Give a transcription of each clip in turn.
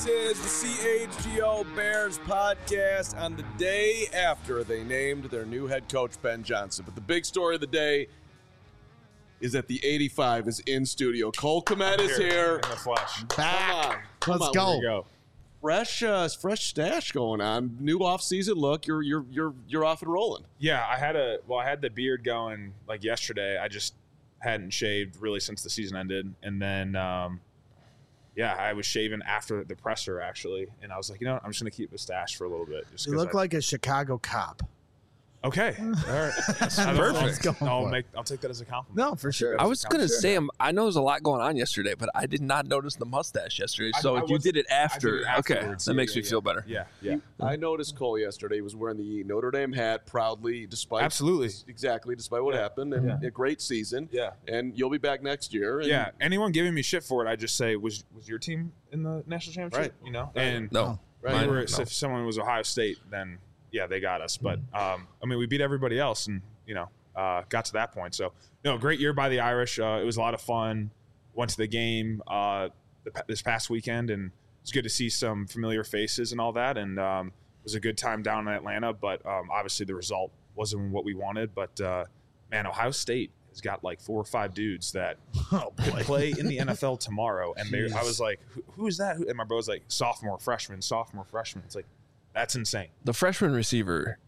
is the CHGO Bears podcast on the day after they named their new head coach, Ben Johnson. But the big story of the day is that the 85 is in studio. Cole Kmet is here. In the flesh. Back. Come Let's on. go. Here we go. Fresh stash going on. New off-season look. You're off and rolling. Yeah, I had the beard going like yesterday. I just hadn't shaved really since the season ended, and then I was shaving after the presser actually, and I was like, I'm just gonna keep the stash for a little bit. Just You look like a Chicago cop. okay, all right, That's perfect. I'll take that as a compliment. No, for sure. I was going to say, I know there's a lot going on yesterday, but I did not notice the mustache yesterday. So if you did it after, okay, that makes me feel better. Yeah. I noticed Cole yesterday. He was wearing the Notre Dame hat proudly, despite what happened, and a great season. Yeah. And you'll be back next year. And Yeah. Anyone giving me shit for it, I just say, was your team in the national championship? Right. And No. Right. if someone was Ohio State, then yeah, they got us. But we beat everybody else, and got to that point. So great year by the Irish. It was a lot of fun. Went to the game this past weekend, and it's good to see some familiar faces and all that. And it was a good time down in Atlanta. But obviously the result wasn't what we wanted. But Ohio State has got like 4 or 5 dudes that could play in the NFL tomorrow. And I was like, who is that? And my bro was like, sophomore, freshman. It's like, that's insane. The freshman receiver.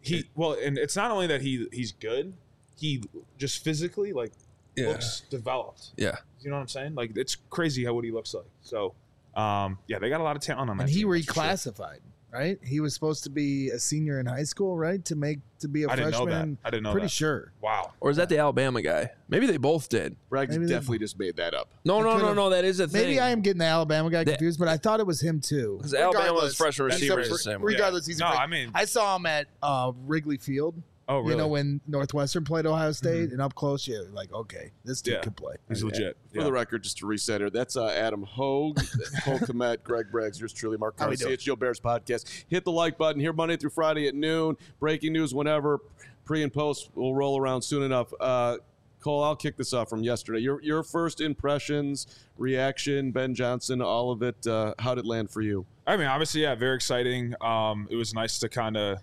And it's not only that he's good, he just physically looks developed. Yeah. You know what I'm saying? Like, it's crazy what he looks like. So, they got a lot of talent on that And he team, that's for sure. reclassified, right? He was supposed to be a senior in high school, right? To be a I didn't know freshman. that. I didn't know Pretty that. sure. Wow. Or is that the Alabama guy? Maybe they both did. Bragg Maybe they- definitely just made that up. No. could've- That is a thing. Maybe I am getting the Alabama guy confused, but I thought it was him too. Because Alabama's Regardless, freshman he's receiver a is the fr- same way. Regardless, he's a No, fr- I mean- I saw him at Wrigley Field. Oh, really? When Northwestern played Ohio State, and up close, you're like, okay, this dude Yeah. could play. He's legit. For the record, just to reset her, that's Adam Hogue, Cole Kmet, Greg Braggs, yours truly, Mark How Carr, we doing? CHGO Bears podcast. Hit the like button here Monday through Friday at noon. Breaking news whenever. Pre and post will roll around soon enough. Cole, I'll kick this off from yesterday. Your first impressions, reaction, Ben Johnson, all of it. How did it land for you? I mean, obviously, yeah, very exciting. It was nice to kind of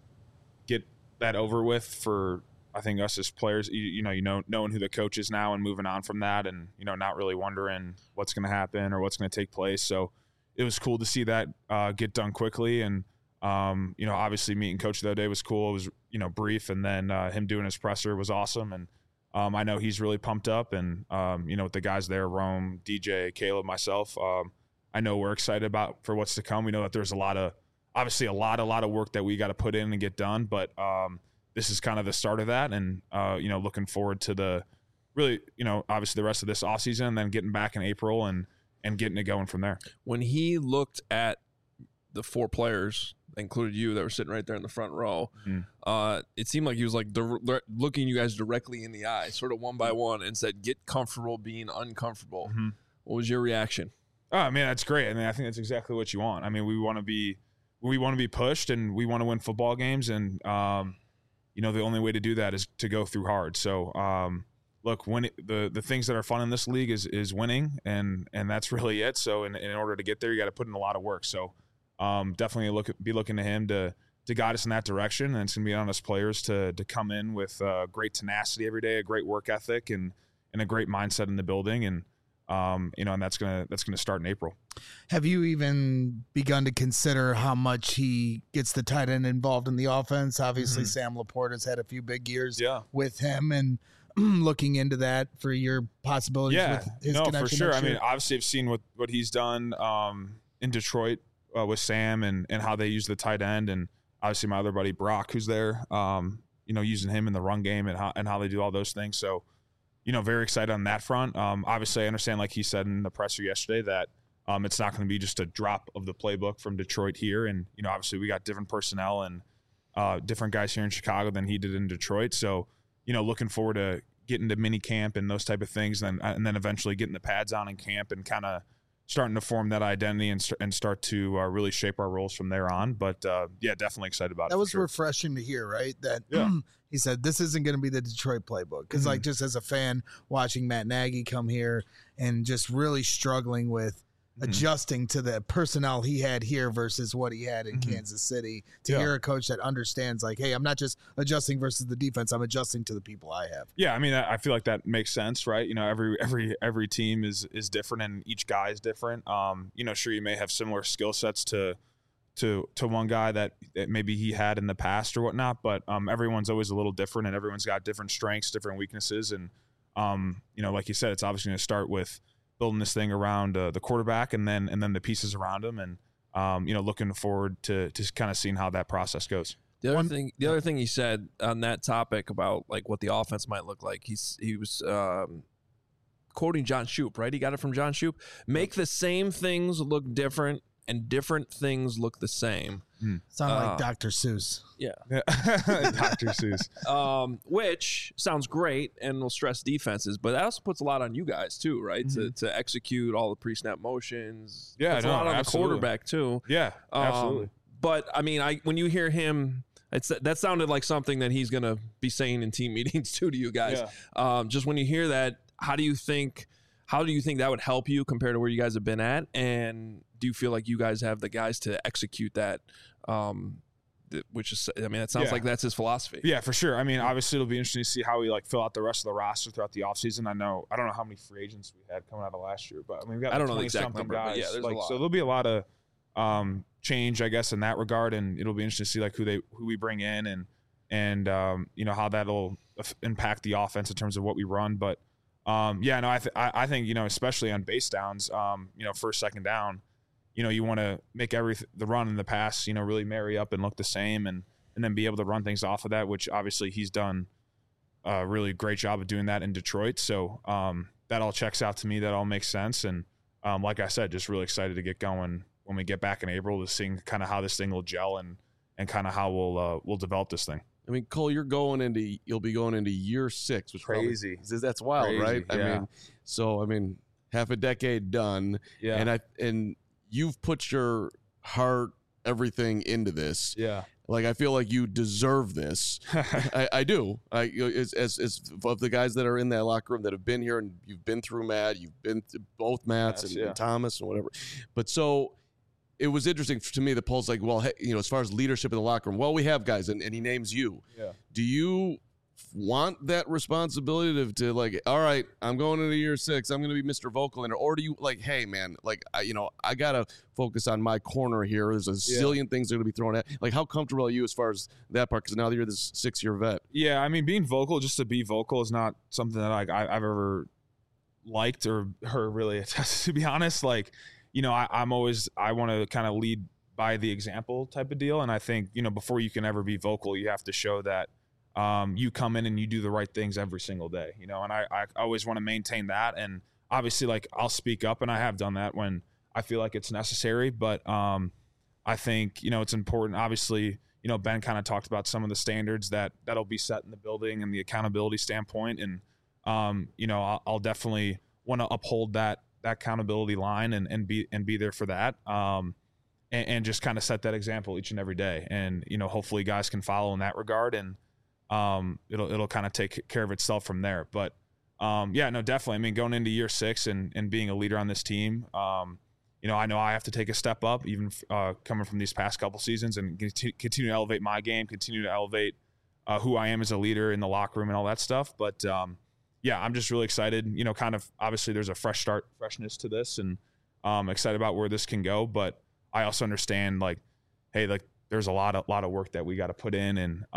get that over with for, I think, us as players, knowing who the coach is now and moving on from that, and not really wondering what's going to happen or what's going to take place. So it was cool to see that get done quickly, and obviously meeting Coach the other day was cool. It was brief, and then him doing his presser was awesome, and I know he's really pumped up, and with the guys there, Rome, DJ, Caleb, myself, I know we're excited for what's to come. We know that there's a lot of work that we got to put in and get done, but this is kind of the start of that, and looking forward to the really, obviously the rest of this offseason, and then getting back in April and getting it going from there. When he looked at the 4 players, included you, that were sitting right there in the front row, it seemed like he was like looking you guys directly in the eye, sort of one by one, and said, "Get comfortable being uncomfortable." Mm-hmm. What was your reaction? Oh, I mean, that's great. I mean, I think that's exactly what you want. I mean, we want to be pushed, and we want to win football games, and the only way to do that is to go through hard. So, look, the things that are fun in this league is winning, and that's really it. So, in order to get there, you got to put in a lot of work. So, definitely be looking to him to guide us in that direction, and it's going to be on us players to come in with great tenacity every day, a great work ethic, and a great mindset in the building, and that's gonna start in April. Have you even begun to consider how much he gets the tight end involved in the offense? Obviously, Sam Laporte has had a few big years with him, and looking into that for your possibilities with his connection. For sure. next I mean, year? obviously, I've seen what he's done in Detroit with Sam and how they use the tight end, and obviously my other buddy Brock, who's there, using him in the run game and how they do all those things. So, very excited on that front. Obviously, I understand, like he said in the presser yesterday, that it's not going to be just a drop of the playbook from Detroit here. And, obviously we got different personnel and different guys here in Chicago than he did in Detroit. So, looking forward to getting to mini camp and those type of things, and then eventually getting the pads on in camp and kind of starting to form that identity and start to really shape our roles from there on. But definitely excited about it. That was sure. refreshing to hear, right? That he said this isn't going to be the Detroit playbook, because just as a fan watching Matt Nagy come here and just really struggling with adjusting to the personnel he had here versus what he had in Kansas City, to hear a coach that understands, like, hey, I'm not just adjusting versus the defense, I'm adjusting to the people I have. Yeah, I mean, I feel like that makes sense, right? Every team is different, and each guy is different. Sure, you may have similar skill sets to one guy that maybe he had in the past or whatnot, but everyone's always a little different, and everyone's got different strengths, different weaknesses, and like you said, it's obviously going to start with building this thing around the quarterback and then the pieces around him, and looking forward to kind of seeing how that process goes. The other thing he said on that topic about like what the offense might look like, he was quoting John Shoop, right? He got it from John Shoop. Make the same things look different, and different things look the same. Sound like Dr. Seuss. Yeah. Dr. Seuss. Which sounds great and will stress defenses, but that also puts a lot on you guys too, right? To execute all the pre-snap motions. Yeah, a lot on the quarterback too. Yeah, absolutely. But I mean, when you hear him, that sounded like something that he's going to be saying in team meetings too to you guys. Yeah. Just when you hear that, how do you think that would help you compared to where you guys have been at? And do you feel like you guys have the guys to execute that? Which is, I mean, it sounds like that's his philosophy. Yeah, for sure. I mean, obviously it'll be interesting to see how we fill out the rest of the roster throughout the offseason. I don't know how many free agents we had coming out of last year, but I mean, we've got I don't know the exact number, guys. But yeah, there's a lot. So there'll be a lot of change, I guess, in that regard, and it'll be interesting to see who we bring in and how that'll impact the offense in terms of what we run. But I think especially on base downs, first, second down, you want to make the run and the pass, really marry up and look the same, and then be able to run things off of that, which obviously he's done a really great job of doing that in Detroit. So that all checks out to me. That all makes sense. And like I said, just really excited to get going when we get back in April to seeing kind of how this thing will gel and kind of how we'll develop this thing. I mean, Cole, you'll be going into year 6, which crazy. That's wild, crazy, right? Yeah. I mean, half a decade done. Yeah. And you've put your heart, everything into this. Yeah. Like, I feel like you deserve this. I do. As of the guys that are in that locker room that have been here, and you've been through Matt, you've been through both Matts and Thomas and whatever. But so it was interesting to me that Paul's like, well, hey, as far as leadership in the locker room, well, we have guys, and he names you. Yeah. Do you want that responsibility to like, all right, I'm going into year 6, I'm going to be Mr. Vocal in it, or do you like, hey man, like I gotta focus on my corner here. There's a zillion things that are going to be thrown at. Like, how comfortable are you as far as that part? Because now that you're this 6-year vet. Yeah, I mean, being vocal just to be vocal is not something that I've ever liked or really attested, to be honest. Like, I want to kind of lead by the example type of deal. And I think, before you can ever be vocal, you have to show that you come in and you do the right things every single day, and I always want to maintain that. And obviously, like, I'll speak up, and I have done that when I feel like it's necessary. But I think, it's important. Obviously, Ben kind of talked about some of the standards that'll be set in the building and the accountability standpoint. And, I'll definitely want to uphold that accountability line and be there for that. And just kind of set that example each and every day. And, hopefully guys can follow in that regard, and it'll kind of take care of itself from there. But definitely. I mean, going into year 6 and being a leader on this team, I know I have to take a step up, even coming from these past couple seasons, and continue to elevate my game, continue to elevate who I am as a leader in the locker room and all that stuff. But I'm just really excited. Kind of obviously there's a freshness to this, and excited about where this can go. But I also understand, like, hey, like, there's a lot of work that we got to put in, and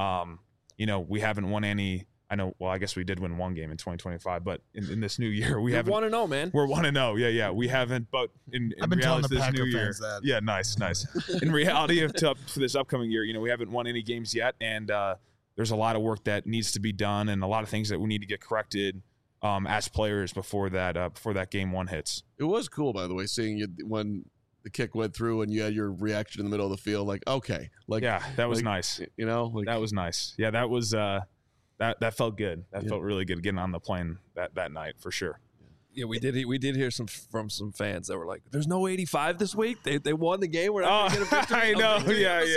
we haven't won any. I know. Well, I guess we did win one game in 2025, but in this new year, we haven't. 1-0, man. We're 1-0. Yeah. We haven't. But in I've been telling reality, the this Packer new year, fans that. Yeah, nice. In reality, for this upcoming year, we haven't won any games yet, and there's a lot of work that needs to be done, and a lot of things that we need to get corrected as players before that game 1 hits. It was cool, by the way, seeing you when the kick went through and you had your reaction in the middle of the field. Like, okay, like, yeah, that was nice. That was nice. Yeah, that was that felt good. That felt really good getting on the plane that night for sure. Yeah, we did hear from some fans that were like, "There's no 85 this week. They won the game. We're not going to get a victory." I know.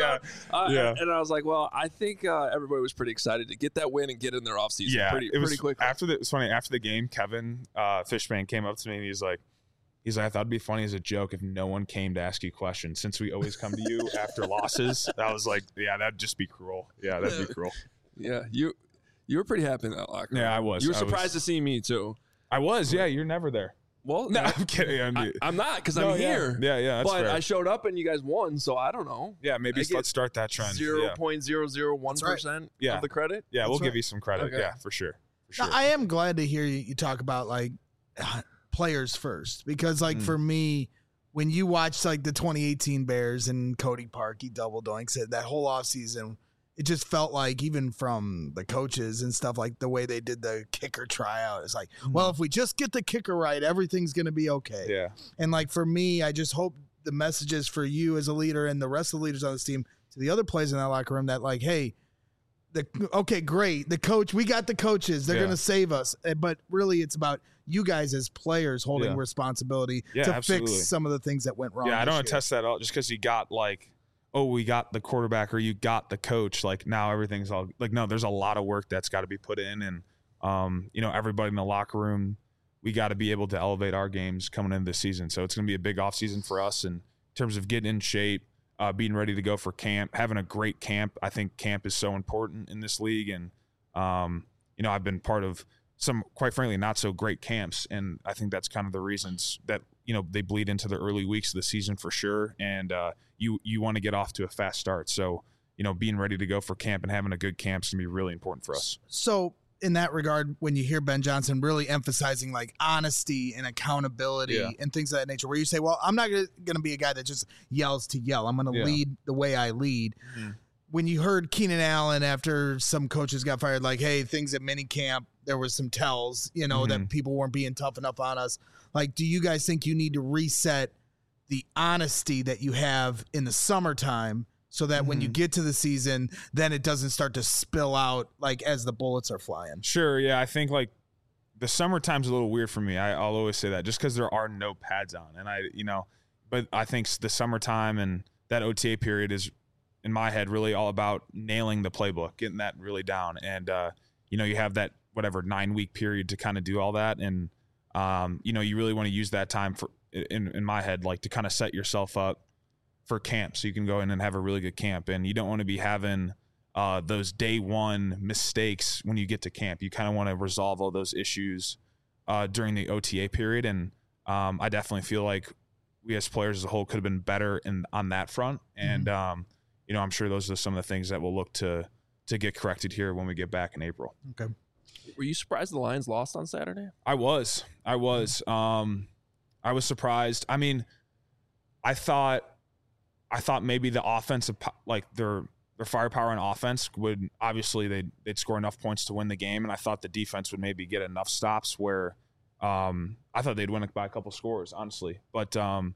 Yeah. And I was like, well, I think everybody was pretty excited to get that win and get in their offseason pretty quickly. It's funny. After the game, Kevin Fishman came up to me and he's like, He's like, I thought it'd be funny as a joke if no one came to ask you questions, since we always come to you after losses. I was like, yeah, that'd just be cruel. Yeah, that'd be cruel. Yeah, you were pretty happy in that locker room. Yeah, I was. You were surprised to see me too. I was. Yeah, you're never there. Well, no, I'm kidding. I'm not, because I'm here. Yeah, that's but fair. I showed up and you guys won, so I don't know. Yeah, maybe let's start that trend. 0.001% of the credit. Yeah, we'll give you some credit. Okay. Yeah, for sure. Now, I am glad to hear you talk about like players first, because like for me, when you watch like the 2018 Bears and Cody Parkey double doinks that whole offseason, it just felt like, even from the coaches and stuff, like the way they did the kicker tryout, it's like, well, if we just get the kicker right, everything's going to be okay. Yeah. And like for me, I just hope the messages for you as a leader and the rest of the leaders on this team to the other players in that locker room that like, hey, okay, great. The coach, we got the coaches. They're going to save us. But really, it's about you guys as players holding responsibility to fix some of the things that went wrong. Yeah, I don't attest that at all. Just because you got like, oh, we got the quarterback or you got the coach, like now everything's all like, no, there's a lot of work that's got to be put in. And, everybody in the locker room, we got to be able to elevate our games coming into the season. So it's going to be a big offseason for us in terms of getting in shape, being ready to go for camp, having a great camp. I think camp is so important in this league. And, I've been part of some, quite frankly, not so great camps. And I think that's kind of the reasons that, they bleed into the early weeks of the season for sure. And you want to get off to a fast start. So, being ready to go for camp and having a good camp is going to be really important for us. So in that regard, when you hear Ben Johnson really emphasizing like honesty and accountability and things of that nature, where you say, well, I'm not going to be a guy that just yells to yell. I'm going to lead the way I lead. Mm-hmm. When you heard Keenan Allen after some coaches got fired, like, hey, things at minicamp, there was some tells, that people weren't being tough enough on us. Like, do you guys think you need to reset the honesty that you have in the summertime so that when you get to the season, then it doesn't start to spill out like as the bullets are flying? Sure. Yeah. I think like the summertime's a little weird for me. I'll always say that just because there are no pads on. And but I think the summertime and that OTA period is, in my head, really all about nailing the playbook, getting that really down. And, you have that 9-week period to kind of do all that. And, you really want to use that time for, in my head, like to kind of set yourself up for camp so you can go in and have a really good camp. And you don't want to be having those day one mistakes when you get to camp. You kind of want to resolve all those issues during the OTA period. And I definitely feel like we as players as a whole could have been better on that front. And, I'm sure those are some of the things that we'll look to get corrected here when we get back in April. Okay. Were you surprised the Lions lost on Saturday? I was. I was surprised. I mean, I thought maybe the offensive, like their firepower on offense would, obviously they'd score enough points to win the game. And I thought the defense would maybe get enough stops where I thought they'd win by a couple scores, honestly. But,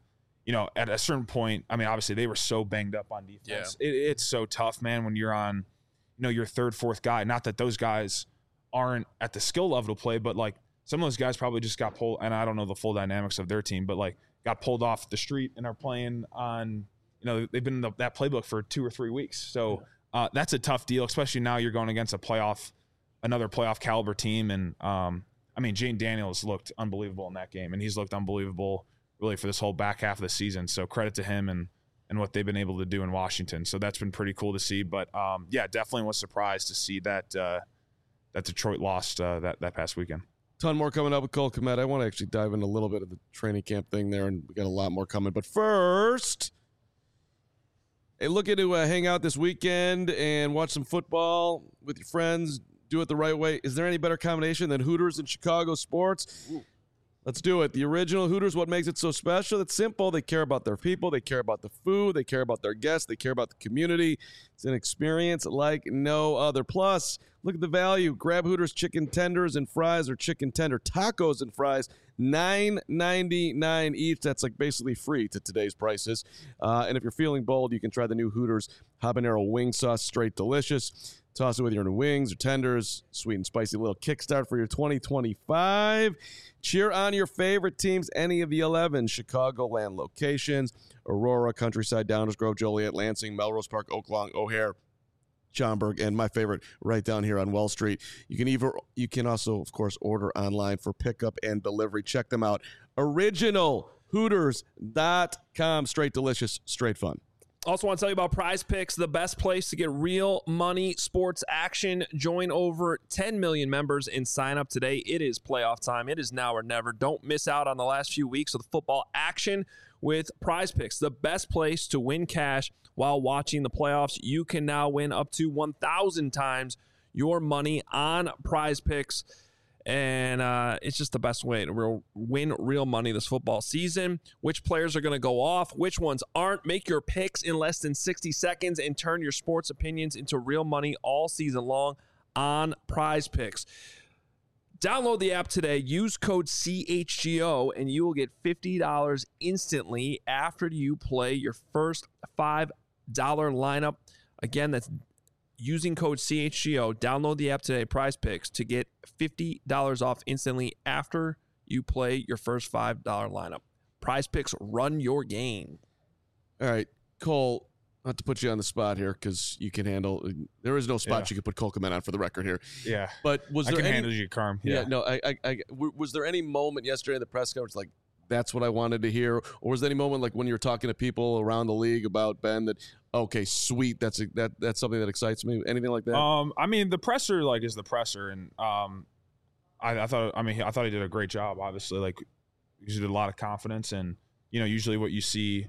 at a certain point, I mean, obviously they were so banged up on defense. Yeah. It's so tough, man, when you're on, your third, fourth guy. Not that those guys aren't at the skill level to play, but like some of those guys probably just got pulled, and I don't know the full dynamics of their team, but like got pulled off the street and are playing on, they've been in that playbook for 2 or 3 weeks. So that's a tough deal, especially now you're going against another playoff caliber team. And Jane Daniels looked unbelievable in that game, and he's looked unbelievable really for this whole back half of the season. So credit to him and what they've been able to do in Washington. So that's been pretty cool to see. But definitely was surprised to see that Detroit lost that past weekend. Ton more coming up with Cole Kmet. I want to actually dive into a little bit of the training camp thing there, and we got a lot more coming. But first, hey, looking to hang out this weekend and watch some football with your friends, do it the right way. Is there any better combination than Hooters and Chicago sports? Ooh. Let's do it. The original Hooters, what makes it so special? It's simple. They care about their people. They care about the food. They care about their guests. They care about the community. It's an experience like no other. Plus, look at the value. Grab Hooters chicken tenders and fries, or chicken tender tacos and fries, $9.99 each. That's like basically free to today's prices. And if you're feeling bold, you can try the new Hooters habanero wing sauce. Straight delicious. Toss it with your wings or tenders. Sweet and spicy little kickstart for your 2025. Cheer on your favorite teams, any of the 11 Chicagoland locations: Aurora, Countryside, Downers Grove, Joliet, Lansing, Melrose Park, Oaklawn, O'Hare, Schaumburg, and my favorite right down here on Wall Street. You can also, of course, order online for pickup and delivery. Check them out. Original Hooters.com. Straight delicious, straight fun. Also want to tell you about Prize Picks, the best place to get real money sports action. Join over 10 million members and sign up today. It is playoff time. It is now or never. Don't miss out on the last few weeks of the football action with Prize Picks, the best place to win cash while watching the playoffs. You can now win up to 1,000 times your money on Prize Picks. And it's just the best way to win real money this football season. Which players are going to go off, which ones aren't. Make your picks in less than 60 seconds and turn your sports opinions into real money all season long on Prize Picks. Download the app today. Use code CHGO, and you will get $50 instantly after you play your first $5 lineup. Again, that's using code CHGO. Download the app today, Prize Picks, to get $50 off instantly after you play your first $5 lineup. Prize Picks, run your game. All right, Cole, not to put you on the spot here because you can handle. There is no spot you can put Cole Kmet on for the record here. Yeah, but was there I can handle you, Carm. Yeah, no. Was there any moment yesterday in the press conference like that's what I wanted to hear, or was there any moment like when you were talking to people around the league about Ben that okay, sweet, that's something that excites me? Anything like that? I mean, the presser is the presser, and I thought he did a great job. Obviously, like he did a lot of confidence, and usually what you see,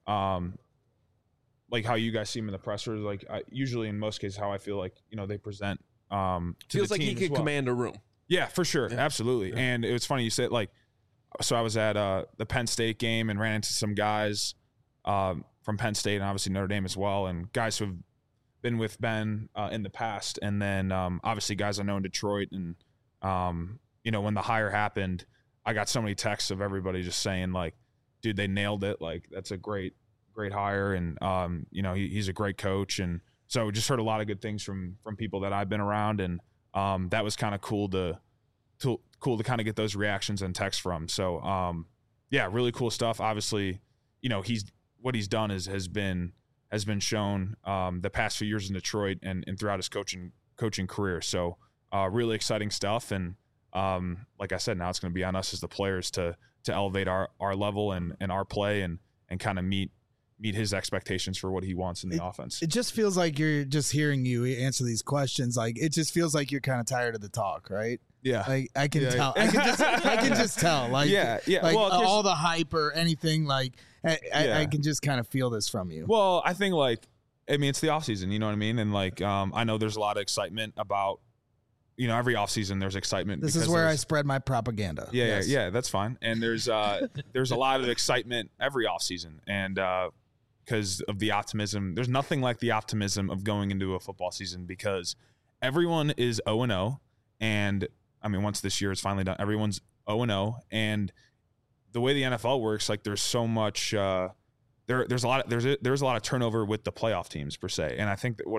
like how you guys see him in the presser, like usually in most cases how I feel like they present. Feels like he could command a room. Yeah, for sure, absolutely. Yeah. And it was funny you said like. So I was at the Penn State game and ran into some guys from Penn State and obviously Notre Dame as well, and guys who have been with Ben in the past, and then obviously guys I know in Detroit. And when the hire happened, I got so many texts of everybody just saying like, "Dude, they nailed it! Like that's a great hire, and he's a great coach." And so just heard a lot of good things from people that I've been around, and that was kind of cool to kind of get those reactions and texts from. So, really cool stuff. Obviously, what he's done has been shown the past few years in Detroit and throughout his coaching career. So, really exciting stuff. And like I said, now it's going to be on us as the players to elevate our level and our play and kind of meet his expectations for what he wants in the offense. It just feels like you're just hearing you answer these questions. Like it just feels like you're kind of tired of the talk, right? Yeah, like I can tell. I can just tell. Like yeah. Like well, all the hype or anything. Like I can just kind of feel this from you. Well, I think it's the off season. You know what I mean? And I know there's a lot of excitement about. Every off season there's excitement. This is where I spread my propaganda. Yeah, yeah, that's fine. And there's a lot of excitement every off season, and because of the optimism, there's nothing like the optimism of going into a football season because everyone is 0-0, and I mean, once this year is finally done, everyone's 0-0, and the way the NFL works, like there's so much, there's a lot of turnover with the playoff teams per se, and I think that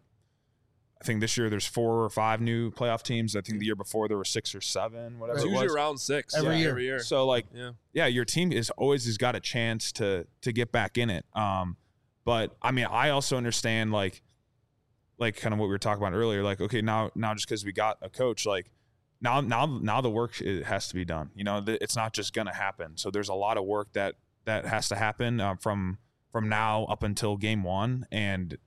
I think this year there's 4 or 5 new playoff teams. I think the year before there were 6 or 7, whatever. It's usually around 6 every year. So your team has always got a chance to get back in it. But I mean, I also understand like kind of what we were talking about earlier. Like, okay, now just because we got a coach, like. Now the work has to be done. It's not just gonna happen. So there's a lot of work that has to happen from now up until game 1, and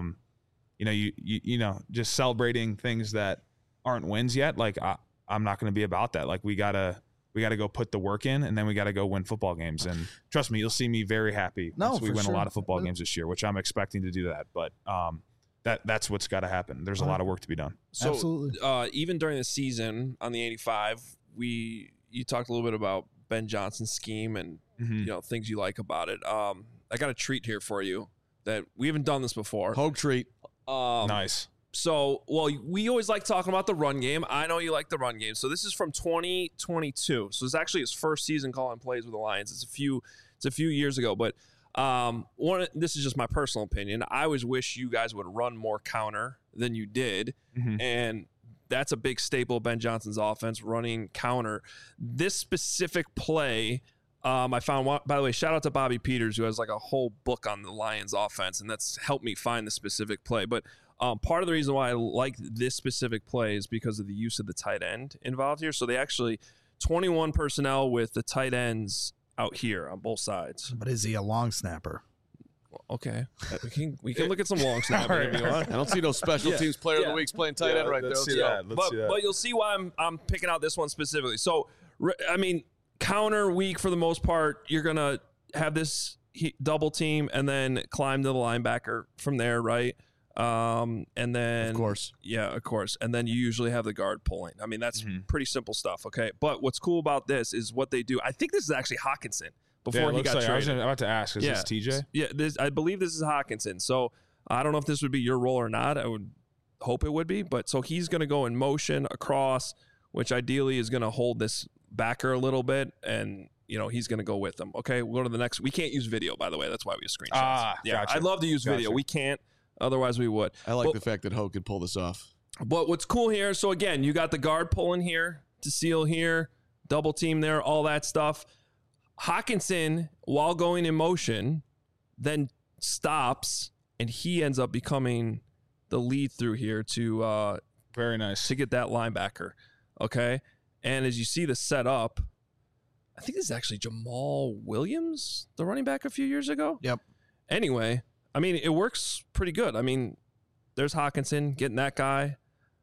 just celebrating things that aren't wins yet. Like I'm not gonna be about that. Like we gotta go put the work in, and then we gotta go win football games. And trust me, you'll see me very happy once we win a lot of football games this year, which I'm expecting to do that. But that's what's got to happen. There's a lot of work to be done. So, absolutely. Even during the season on the 85, you talked a little bit about Ben Johnson's scheme and things you like about it. I got a treat here for you that we haven't done this before. Hope treat. Nice. So, we always like talking about the run game. I know you like the run game. So this is from 2022. So it's actually his first season calling plays with the Lions. It's a few years ago, but. This is just my personal opinion. I always wish you guys would run more counter than you did. Mm-hmm. And that's a big staple of Ben Johnson's offense, running counter. This specific play, I found one, by the way, shout out to Bobby Peters, who has like a whole book on the Lions offense, and that's helped me find the specific play. But part of the reason why I like this specific play is because of the use of the tight end involved here. So they actually 21 personnel with the tight ends out here on both sides. But is he a long snapper? Okay, we can look at some long snapping if you want. I don't see no special teams player of the week's playing tight end right there. But you'll see why I'm picking out this one specifically. So, I mean, counter weak for the most part. You're going to have this double team and then climb to the linebacker from there, right? And then, of course. Yeah, of course. And then you usually have the guard pulling. I mean, that's pretty simple stuff, okay? But what's cool about this is what they do. I think this is actually Hockenson. Before he got traded. I was about to ask, is this TJ? Yeah, I believe this is Hockenson. So I don't know if this would be your role or not. I would hope it would be. But so he's going to go in motion across, which ideally is going to hold this backer a little bit. And, he's going to go with them. Okay, we'll go to the next. We can't use video, by the way. That's why we use screenshots. Gotcha. I'd love to use video. We can't. Otherwise, we would. I like the fact that Ho could pull this off. But what's cool here, so again, you got the guard pulling here to seal here, double team there, all that stuff. Hockenson, while going in motion, then stops, and he ends up becoming the lead through here to very nice to get that linebacker. Okay, and as you see the setup, I think this is actually Jamal Williams, the running back a few years ago. Yep. Anyway, I mean, it works pretty good. I mean, there's Hockenson getting that guy.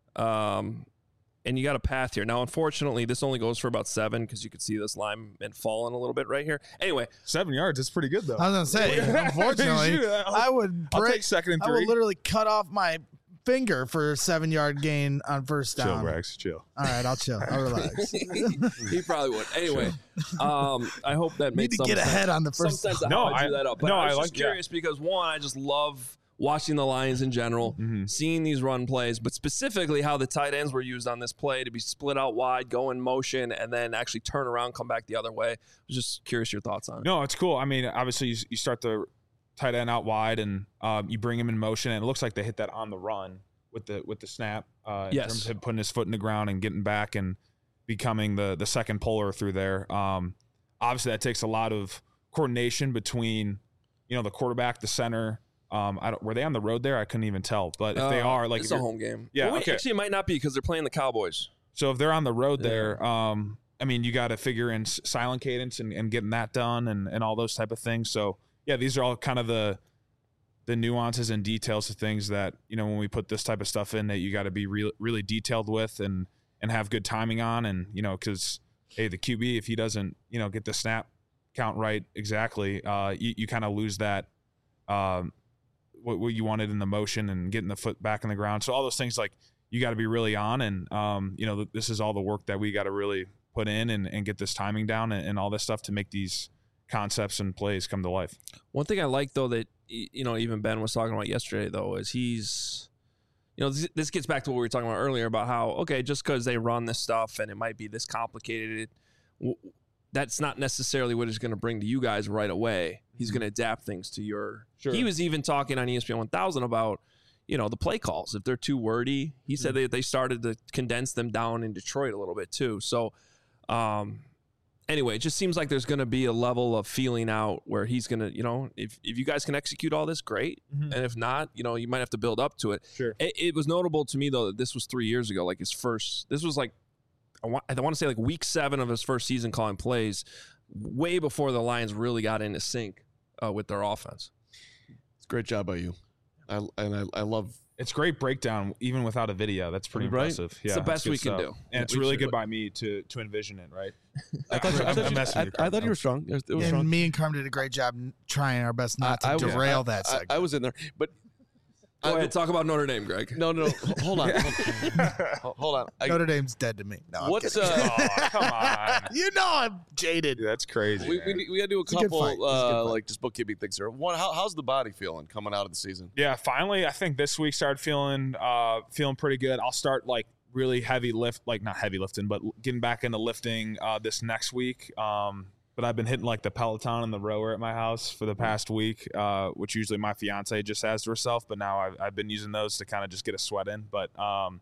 And you got a path here. Now, unfortunately, this only goes for about 7 because you could see this lineman falling a little bit right here. Anyway. 7 yards. That's pretty good, though. I was going to say, unfortunately, I'll take 2nd and 3. I would literally cut off my finger for a 7-yard gain on first down. Chill, Rex. Chill. All right, I'll chill. I'll relax. He probably would. Anyway, I hope that makes some sense. Need to get ahead on the first down. No, I drew that up. But I was just curious because, one, I just love watching the Lions in general, seeing these run plays, but specifically how the tight ends were used on this play to be split out wide, go in motion, and then actually turn around, come back the other way. I was just curious your thoughts on it. No, it's cool. I mean, obviously you start the tight end out wide and you bring him in motion, and it looks like they hit that on the run with the snap in terms of putting his foot in the ground and getting back and becoming the second puller through there. Obviously, that takes a lot of coordination between the quarterback, the center. Were they on the road there? I couldn't even tell. But if they are, like, it's a home game. Yeah, okay. Actually, it might not be because they're playing the Cowboys. So if they're on the road there, I mean, you got to figure in silent cadence and getting that done and all those type of things. So yeah, these are all kind of the nuances and details of things that when we put this type of stuff in that you got to be really detailed with and have good timing on, and because the QB, if he doesn't get the snap count right exactly, you kind of lose that. What you wanted in the motion and getting the foot back in the ground. So all those things, like, you got to be really on. And, this is all the work that we got to really put in and get this timing down and all this stuff to make these concepts and plays come to life. One thing I like, though, that, even Ben was talking about yesterday, though, is he's, this gets back to what we were talking about earlier about how, okay, just because they run this stuff and it might be this complicated, that's not necessarily what he's going to bring to you guys right away. He's going to adapt things to your. Sure. He was even talking on ESPN 1000 about, the play calls. If they're too wordy, he said they started to condense them down in Detroit a little bit too. So, anyway, it just seems like there's going to be a level of feeling out where he's going to, if you guys can execute all this, great. And if not, you might have to build up to it. Sure. It was notable to me, though, that this was 3 years ago, like this was like, I want to say like week 7 of his first season calling plays, way before the Lions really got into sync with their offense. It's a great job by you. I love. It's great breakdown even without a video. That's pretty impressive. Yeah, it's the best we can do, and it's really good by me to envision it. Right. I thought you were strong. It was strong. Me and Carm did a great job trying our best not to derail that segment. I was in there, but. Go ahead, talk about Notre Dame, Greg. No. Hold on. Hold on. Notre Dame's dead to me. No, what's come on. I'm jaded. Dude, that's crazy. We got to do a couple just bookkeeping things here. One, how's the body feeling coming out of the season? Yeah, finally, I think this week started feeling pretty good. I'll start really heavy lift, not heavy lifting, but getting back into lifting this next week. But I've been hitting the Peloton and the rower at my house for the past week, which usually my fiance just has to herself. But now I've been using those to kind of just get a sweat in. But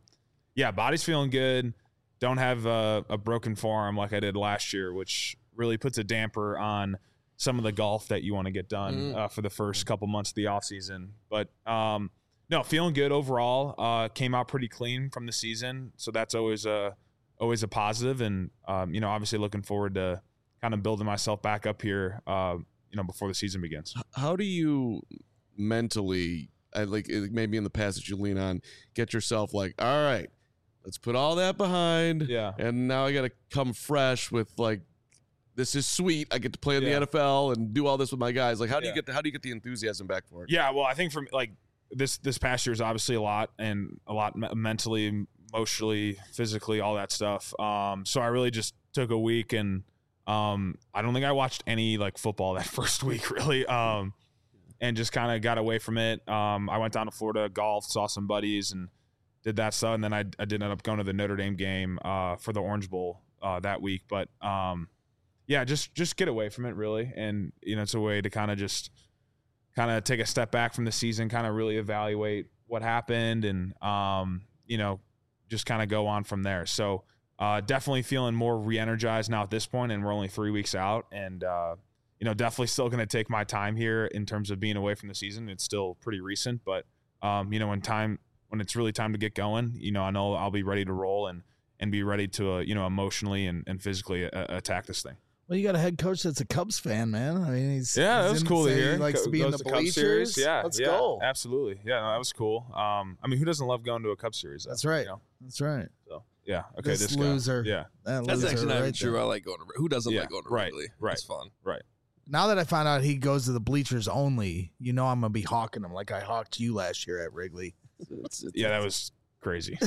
body's feeling good. Don't have a broken forearm like I did last year, which really puts a damper on some of the golf that you want to get done for the first couple months of the off season. But no, feeling good overall. Came out pretty clean from the season, so that's always a positive. And obviously looking forward to kind of building myself back up here, before the season begins. How do you mentally, maybe in the past that you lean on, get yourself like, all right, let's put all that behind. Yeah. And now I got to come fresh with like, this is sweet. I get to play in the NFL and do all this with my guys. Like, how do you get the enthusiasm back for it? Yeah. Well, I think this past year is obviously a lot mentally, emotionally, physically, all that stuff. So I really just took a week and I don't think I watched any like football that first week really. And just kind of got away from it. I went down to Florida, golfed, saw some buddies and did that stuff. And then I did end up going to the Notre Dame game for the Orange Bowl that week. But just get away from it really. And, it's a way to kind of take a step back from the season, kind of really evaluate what happened and, just kind of go on from there. So definitely feeling more re-energized now at this point, and we're only 3 weeks out. And, definitely still going to take my time here in terms of being away from the season. It's still pretty recent, but, when it's really time to get going, I know I'll be ready to roll and be ready to, emotionally and physically attack this thing. Well, you got a head coach that's a Cubs fan, man. I mean, that was cool to hear. He likes to be in the Cubs series. Yeah, let's go. Absolutely. Yeah, no, that was cool. Who doesn't love going to a Cubs series? That's right. That's right. So, yeah. Okay. This loser. Guy. Yeah. That's actually not even true. There. I like going to. Who doesn't like going to Wrigley? Right. It's fun. Right. Now that I found out he goes to the bleachers only, I'm gonna be hawking him like I hawked you last year at Wrigley. That was crazy.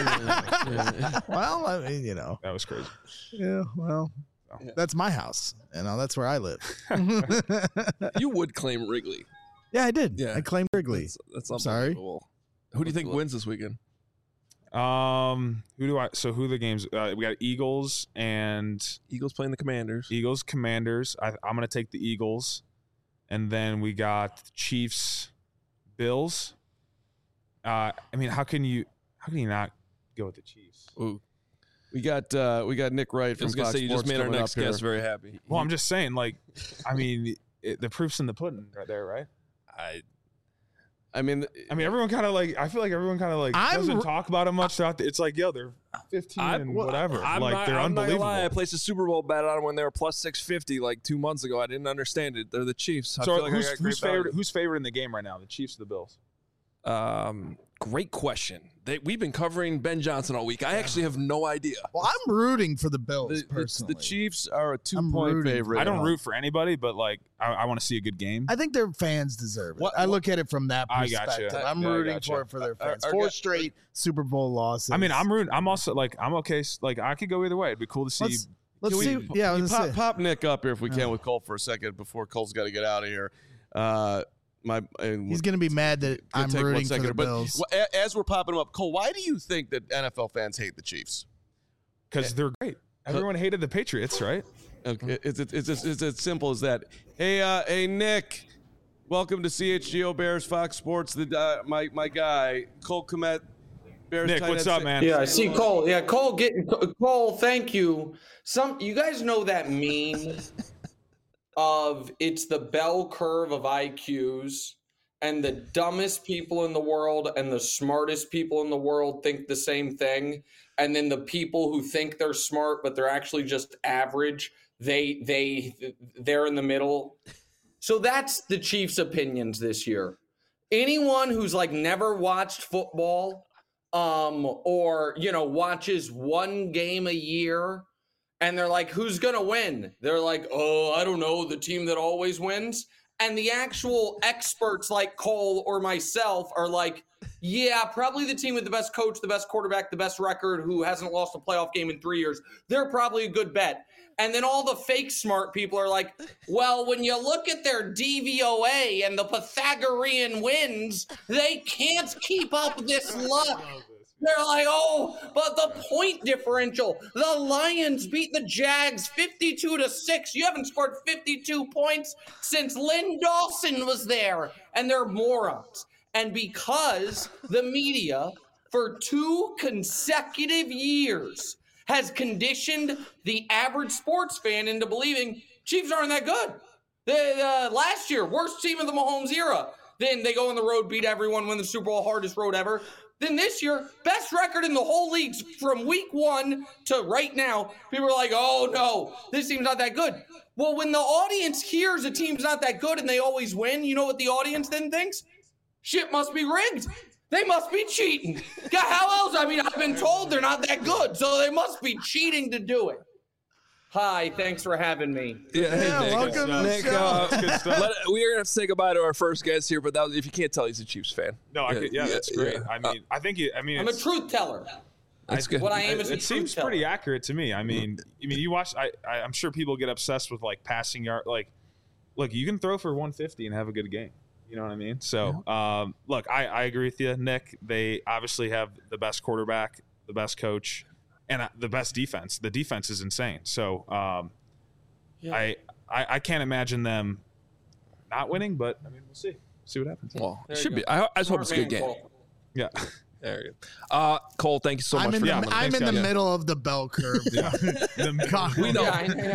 Well, I mean, that was crazy. Yeah. Well. That's my house. That's where I live. You would claim Wrigley. Yeah, I did. Yeah. I claimed Wrigley. That's I'm sorry. Who do you think wins this weekend? Who are the games? We got Eagles playing the Commanders. Commanders. I'm going to take the Eagles. And then we got Chiefs, Bills. How can you not go with the Chiefs? Ooh. We got Nick Wright from Fox you just made our next guest very happy. Well, I'm just saying, the proof's in the pudding right there, right? Everyone kind of I feel like everyone kind of doesn't talk about it much throughout. It's like, they're 15 and whatever. They're unbelievable. Not gonna lie, I placed a Super Bowl bet on when they were plus 650 like 2 months ago. I didn't understand it. They're the Chiefs. So who's favored in the game right now? The Chiefs or the Bills? Great question. We've been covering Ben Johnson all week. I actually have no idea. Well, I'm rooting for the Bills personally. The Chiefs are a 2-point favorite. I don't root for anybody, but I want to see a good game. I think their fans deserve it. I look at it from that perspective. I'm rooting for their fans. 4 straight Super Bowl losses. I'm rooting. I'm also I'm okay. I could go either way. It'd be cool to see. Let's see. Yeah, pop Nick up here if we can with Cole for a second before Cole's got to get out of here. He's going to be mad that I'm rooting for the Bills. But as we're popping them up, Cole, why do you think that NFL fans hate the Chiefs? Because they're great. Everyone hated the Patriots, right? Okay, it's as simple as that. Hey, Nick, welcome to CHGO Bears Fox Sports. My guy Cole Kmet. Bears Nick, what's up, man? Yeah, I see Cole. Yeah, Cole. Thank you. You guys know that meme of it's the bell curve of IQs, and the dumbest people in the world and the smartest people in the world think the same thing, and then the people who think they're smart but they're actually just average, they're in the middle. So that's the Chiefs' opinions this year. Anyone who's never watched football or watches one game a year, and they're like, who's going to win? They're like, oh, I don't know, the team that always wins. And the actual experts like Cole or myself are like, yeah, probably the team with the best coach, the best quarterback, the best record, who hasn't lost a playoff game in 3 years. They're probably a good bet. And then all the fake smart people are like, well, when you look at their DVOA and the Pythagorean wins, they can't keep up this luck. They're like, oh, but the point differential. The Lions beat the Jags 52-6. You haven't scored 52 points since Lynn Dawson was there. And they're morons. And because the media, for 2 consecutive years, has conditioned the average sports fan into believing Chiefs aren't that good. Last year, worst team of the Mahomes era. Then they go on the road, beat everyone, win the Super Bowl, hardest road ever. Then this year, best record in the whole league from week 1 to right now. People are like, oh no, this team's not that good. Well, when the audience hears a team's not that good and they always win, you know what the audience then thinks? Shit must be rigged. They must be cheating. God, how else? I mean, I've been told they're not that good, so they must be cheating to do it. Hi, thanks for having me. Yeah, hey, Nick. Welcome to Nick, the show. we are going to say goodbye to our first guest here, but if you can't tell, he's a Chiefs fan. No, that's great. Yeah. I'm a truth teller. That's good. What I am is a it seems truth pretty teller. accurate to me. I mean, you watch. I'm sure people get obsessed with like passing yard. Like, look, you can throw for 150 and have a good game. You know what I mean? So, look, I agree with you, Nick. They obviously have the best quarterback, the best coach, and the best defense. The defense is insane. So, I can't imagine them not winning, but I mean, we'll see. See what happens. Well, it should be. I just hope it's a good game. Yeah. There you go. Cole, thank you so much for coming. I'm in the middle of the bell curve. We know.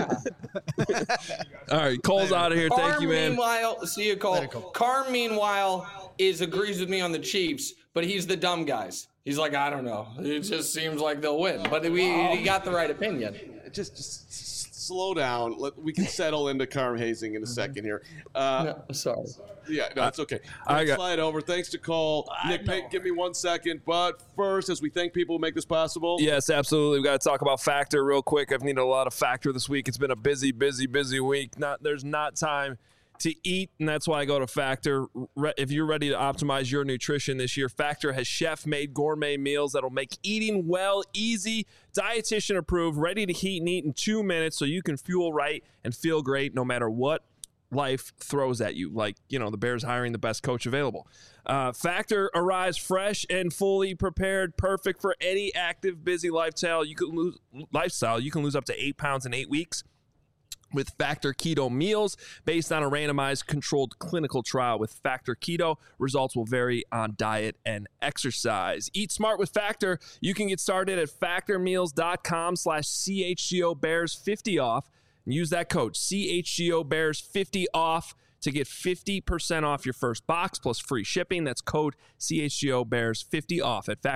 All right, Cole's out of here. Thank you, man. Meanwhile, see you, Cole. Carm, meanwhile, agrees with me on the Chiefs, but he's the dumb guys. He's like, I don't know. It just seems like they'll win. But he got the right opinion. Just slow down. We can settle into Carm hazing in a second here. No, sorry. Yeah, no, it's okay. Slide over. Thanks to Cole. Nick, give me 1 second. But first, as we thank people who make this possible. Yes, absolutely. We've got to talk about Factor real quick. I've needed a lot of Factor this week. It's been a busy week. There's not time to eat, and that's why I go to Factor. If you're ready to optimize your nutrition this year, Factor has chef-made gourmet meals that'll make eating well easy, dietitian approved, ready to heat and eat in 2 minutes so you can fuel right and feel great no matter what life throws at you, like, the Bears hiring the best coach available. Factor arrives fresh and fully prepared, perfect for any active, busy lifestyle. You can lose up to 8 pounds in 8 weeks with Factor Keto meals based on a randomized controlled clinical trial. With Factor Keto, results will vary on diet and exercise. Eat smart with Factor. You can get started at factormeals.com/CHGOBears50 off. And use that code CHGOBears50 off to get 50% off your first box plus free shipping. That's code CHGOBears50 off at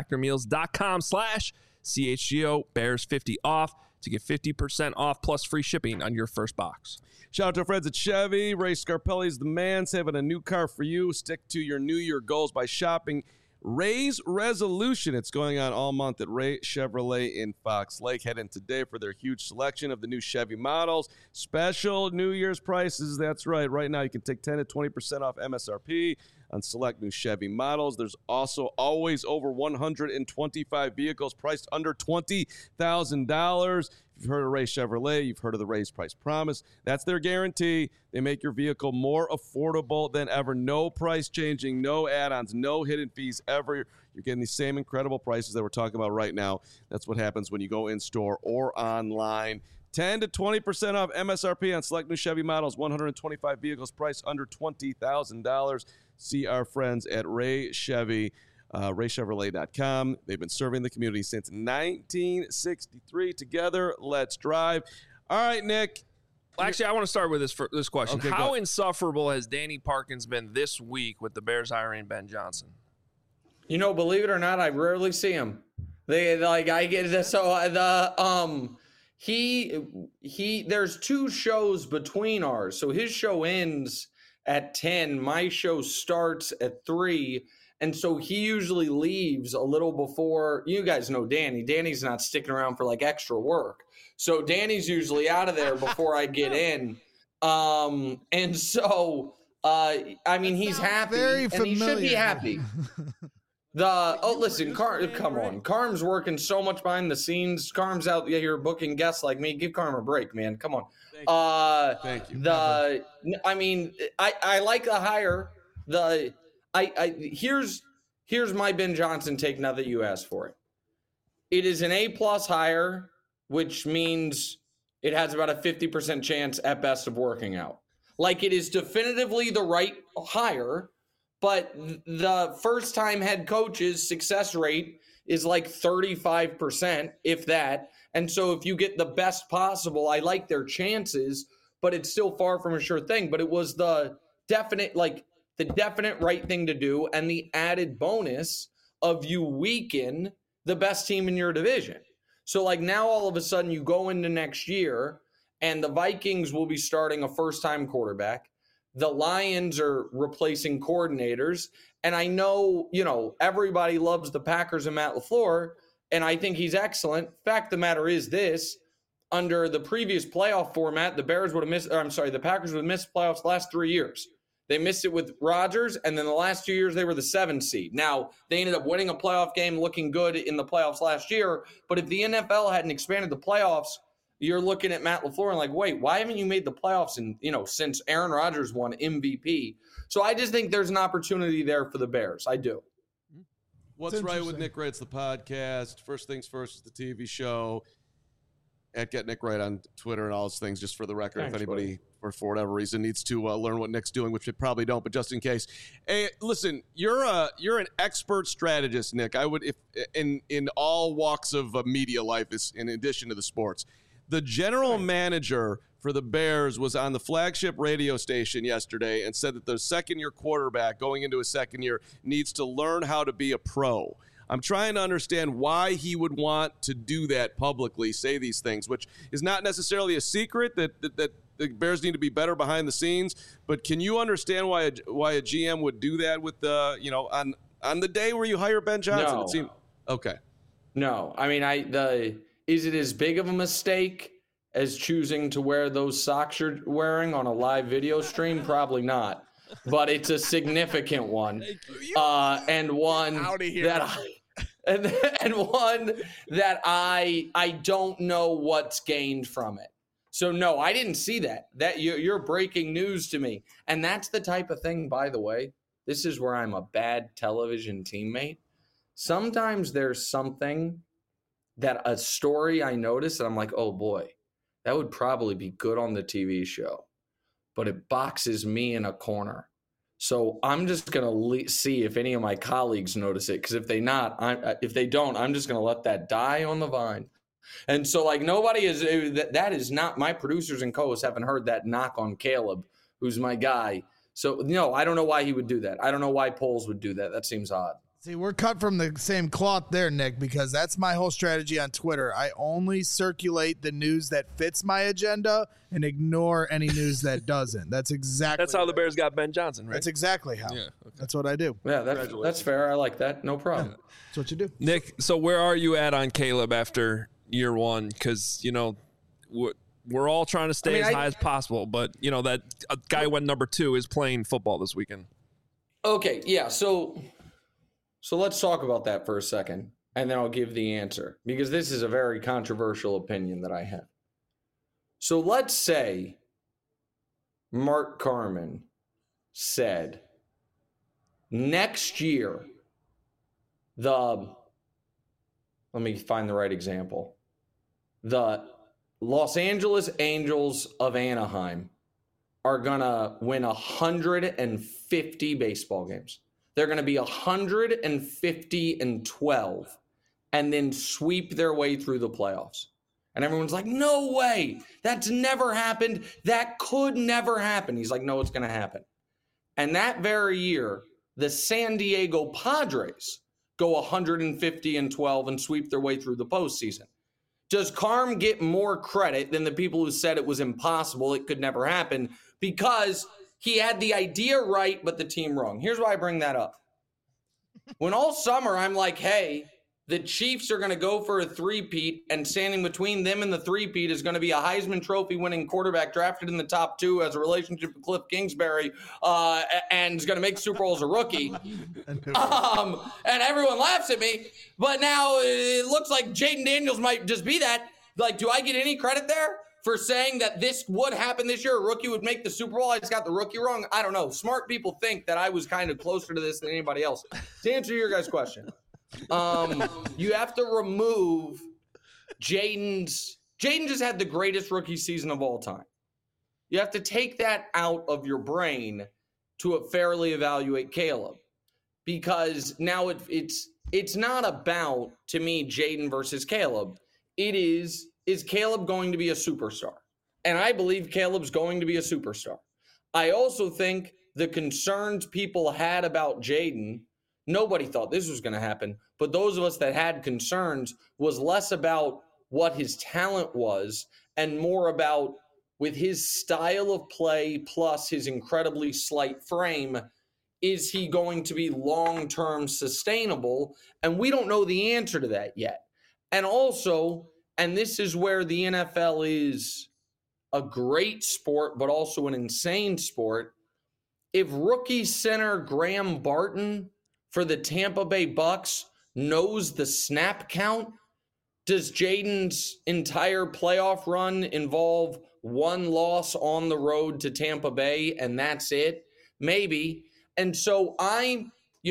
factormeals.com/CHGOBears50 off to get 50% off plus free shipping on your first box. Shout out to our friends at Chevy. Ray Scarpelli's the man, saving a new car for you. Stick to your New Year goals by shopping Ray's Resolution. It's going on all month at Ray Chevrolet in Fox Lake. Head in today for their huge selection of the new Chevy models. Special New Year's prices. That's right. Right now you can take 10 to 20% off MSRP on select new Chevy models. There's also always over 125 vehicles priced under $20,000. If you've heard of Ray Chevrolet, you've heard of the Ray's Price Promise. That's their guarantee. They make your vehicle more affordable than ever. No price changing, no add-ons, no hidden fees ever. You're getting the same incredible prices that we're talking about right now. That's what happens when you go in-store or online. 10 to 20% off MSRP on select new Chevy models. 125 vehicles priced under $20,000. See our friends at Ray Chevy. RayChevrolet.com. They've been serving the community since 1963. Together, let's drive. All right, Nick. Actually, I want to start with this question. Okay, how insufferable has Danny Parkins been this week with the Bears hiring Ben Johnson? Believe it or not, I rarely see him. I get this. So there's 2 shows between ours. So his show ends at 10. My show starts at 3. And so he usually leaves a little before. You guys know Danny. Danny's not sticking around for extra work. So Danny's usually out of there before I get in. And so, he's happy. And he should be happy. Listen, come on. Carm's working so much behind the scenes. Carm's out here booking guests like me. Give Carm a break, man. Come on. Thank you. I like the hire. Here's my Ben Johnson take now that you asked for it. It is an A+ hire, which means it has about a 50% chance at best of working out. It is definitively the right hire, but the first time head coach's success rate is 35%, if that. And so if you get the best possible, I like their chances, but it's still far from a sure thing. But it was the definite right thing to do, and the added bonus of you weaken the best team in your division. So like now all of a sudden you go into next year and the Vikings will be starting a first-time quarterback. The Lions are replacing coordinators. And I know, everybody loves the Packers and Matt LaFleur, and I think he's excellent. Fact of the matter is this. Under the previous playoff format, the Packers would have missed playoffs the last 3 years. They missed it with Rodgers, and then the last 2 years they were the 7th seed. Now, they ended up winning a playoff game, looking good in the playoffs last year. But if the NFL hadn't expanded the playoffs, you're looking at Matt LaFleur and like, wait, why haven't you made the playoffs since Aaron Rodgers won MVP? So I just think there's an opportunity there for the Bears. I do. What's Right with Nick Wright's the podcast. First Things First is the TV show. At Get Nick Wright on Twitter and all those things, just for the record. Thanks, if anybody, or for whatever reason, needs to learn what Nick's doing, which they probably don't, but just in case. Hey, listen, you're an expert strategist, Nick. I would, if in all walks of media life, is in addition to the sports. The general manager for the Bears was on the flagship radio station yesterday and said that the second-year quarterback going into his second year needs to learn how to be a pro. I'm trying to understand why he would want to do that publicly, say these things, which is not necessarily a secret that the Bears need to be better behind the scenes. But can you understand why a GM would do that with on the day where you hire Ben Johnson? No. It seemed okay. No, I mean, is it as big of a mistake as choosing to wear those socks you're wearing on a live video stream? Probably not. But it's a significant one, and one that I don't know what's gained from it. So no, I didn't see that. That you're breaking news to me, and that's the type of thing. By the way, this is where I'm a bad television teammate. Sometimes there's something that a story I notice, and I'm like, oh boy, that would probably be good on the TV show. But it boxes me in a corner. So I'm just going to see if any of my colleagues notice it. Because if they don't, I'm just going to let that die on the vine. And so like nobody is, that is not, my producers and co-hosts haven't heard that knock on Caleb, who's my guy. So no, I don't know why he would do that. I don't know why Poles would do that. That seems odd. See, we're cut from the same cloth there, Nick, because that's my whole strategy on Twitter. I only circulate the news that fits my agenda and ignore any news that doesn't. That's how the Bears got Ben Johnson, right? That's exactly how. Yeah, okay. That's what I do. Yeah, that's fair. I like that. No problem. That's what you do. Nick, so where are you at on Caleb after year one? Because, we're all trying to stay as high as possible, but, that guy went number 2 is playing football this weekend. Okay, yeah, So let's talk about that for a second, and then I'll give the answer, because this is a very controversial opinion that I have. So let's say Mark Carman said next year, let me find the right example. The Los Angeles Angels of Anaheim are going to win 150 baseball games. They're going to be 150-12 and then sweep their way through the playoffs. And everyone's like, no way. That's never happened. That could never happen. He's like, no, it's going to happen. And that very year, the San Diego Padres go 150-12 and sweep their way through the postseason. Does Carm get more credit than the people who said it was impossible, it could never happen, because he had the idea right, but the team wrong? Here's why I bring that up. When all summer I'm like, hey, the Chiefs are going to go for a three-peat, and standing between them and the three-peat is going to be a Heisman Trophy winning quarterback drafted in the top 2 as a relationship with Cliff Kingsbury, and is going to make Super Bowls a rookie. And everyone laughs at me, but now it looks like Jaden Daniels might just be that. Like, do I get any credit there for saying that this would happen this year? A rookie would make the Super Bowl. I just got the rookie wrong. I don't know. Smart people think that I was kind of closer to this than anybody else. To answer your guys' question, you have to remove Jaden just had the greatest rookie season of all time. You have to take that out of your brain to fairly evaluate Caleb, because now it's not about, to me, Jaden versus Caleb. It is Caleb going to be a superstar? And I believe Caleb's going to be a superstar. I also think the concerns people had about Jaden Nobody thought this was going to happen. But those of us that had concerns was less about what his talent was and more about, with his style of play plus his incredibly slight frame, is he going to be long-term sustainable? And we don't know the answer to that yet. And also, and this is where the NFL is a great sport, but also an insane sport, if rookie center Graham Barton for the Tampa Bay Bucks knows the snap count, does Jaden's entire playoff run involve one loss on the road to Tampa Bay and that's it? Maybe. And so I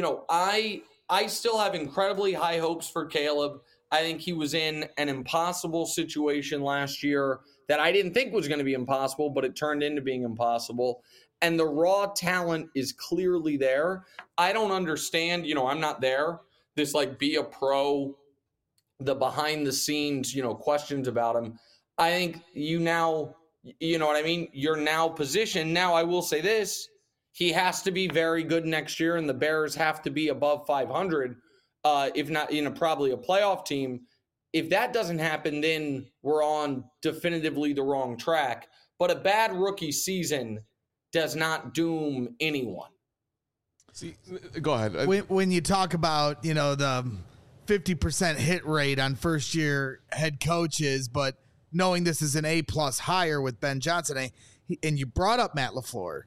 still have incredibly high hopes for Caleb. I think he was in an impossible situation last year that I didn't think was going to be impossible, but it turned into being impossible. And the raw talent is clearly there. I don't understand, I'm not there. This be a pro, the behind the scenes, questions about him. I think you know what I mean? You're now positioned. Now I will say this, he has to be very good next year and the Bears have to be above 500, if not, probably a playoff team. If that doesn't happen, then we're on definitively the wrong track. But a bad rookie season does not doom anyone. See, go ahead. When you talk about, the 50% hit rate on first-year head coaches, but knowing this is an A+ hire with Ben Johnson, and you brought up Matt LaFleur,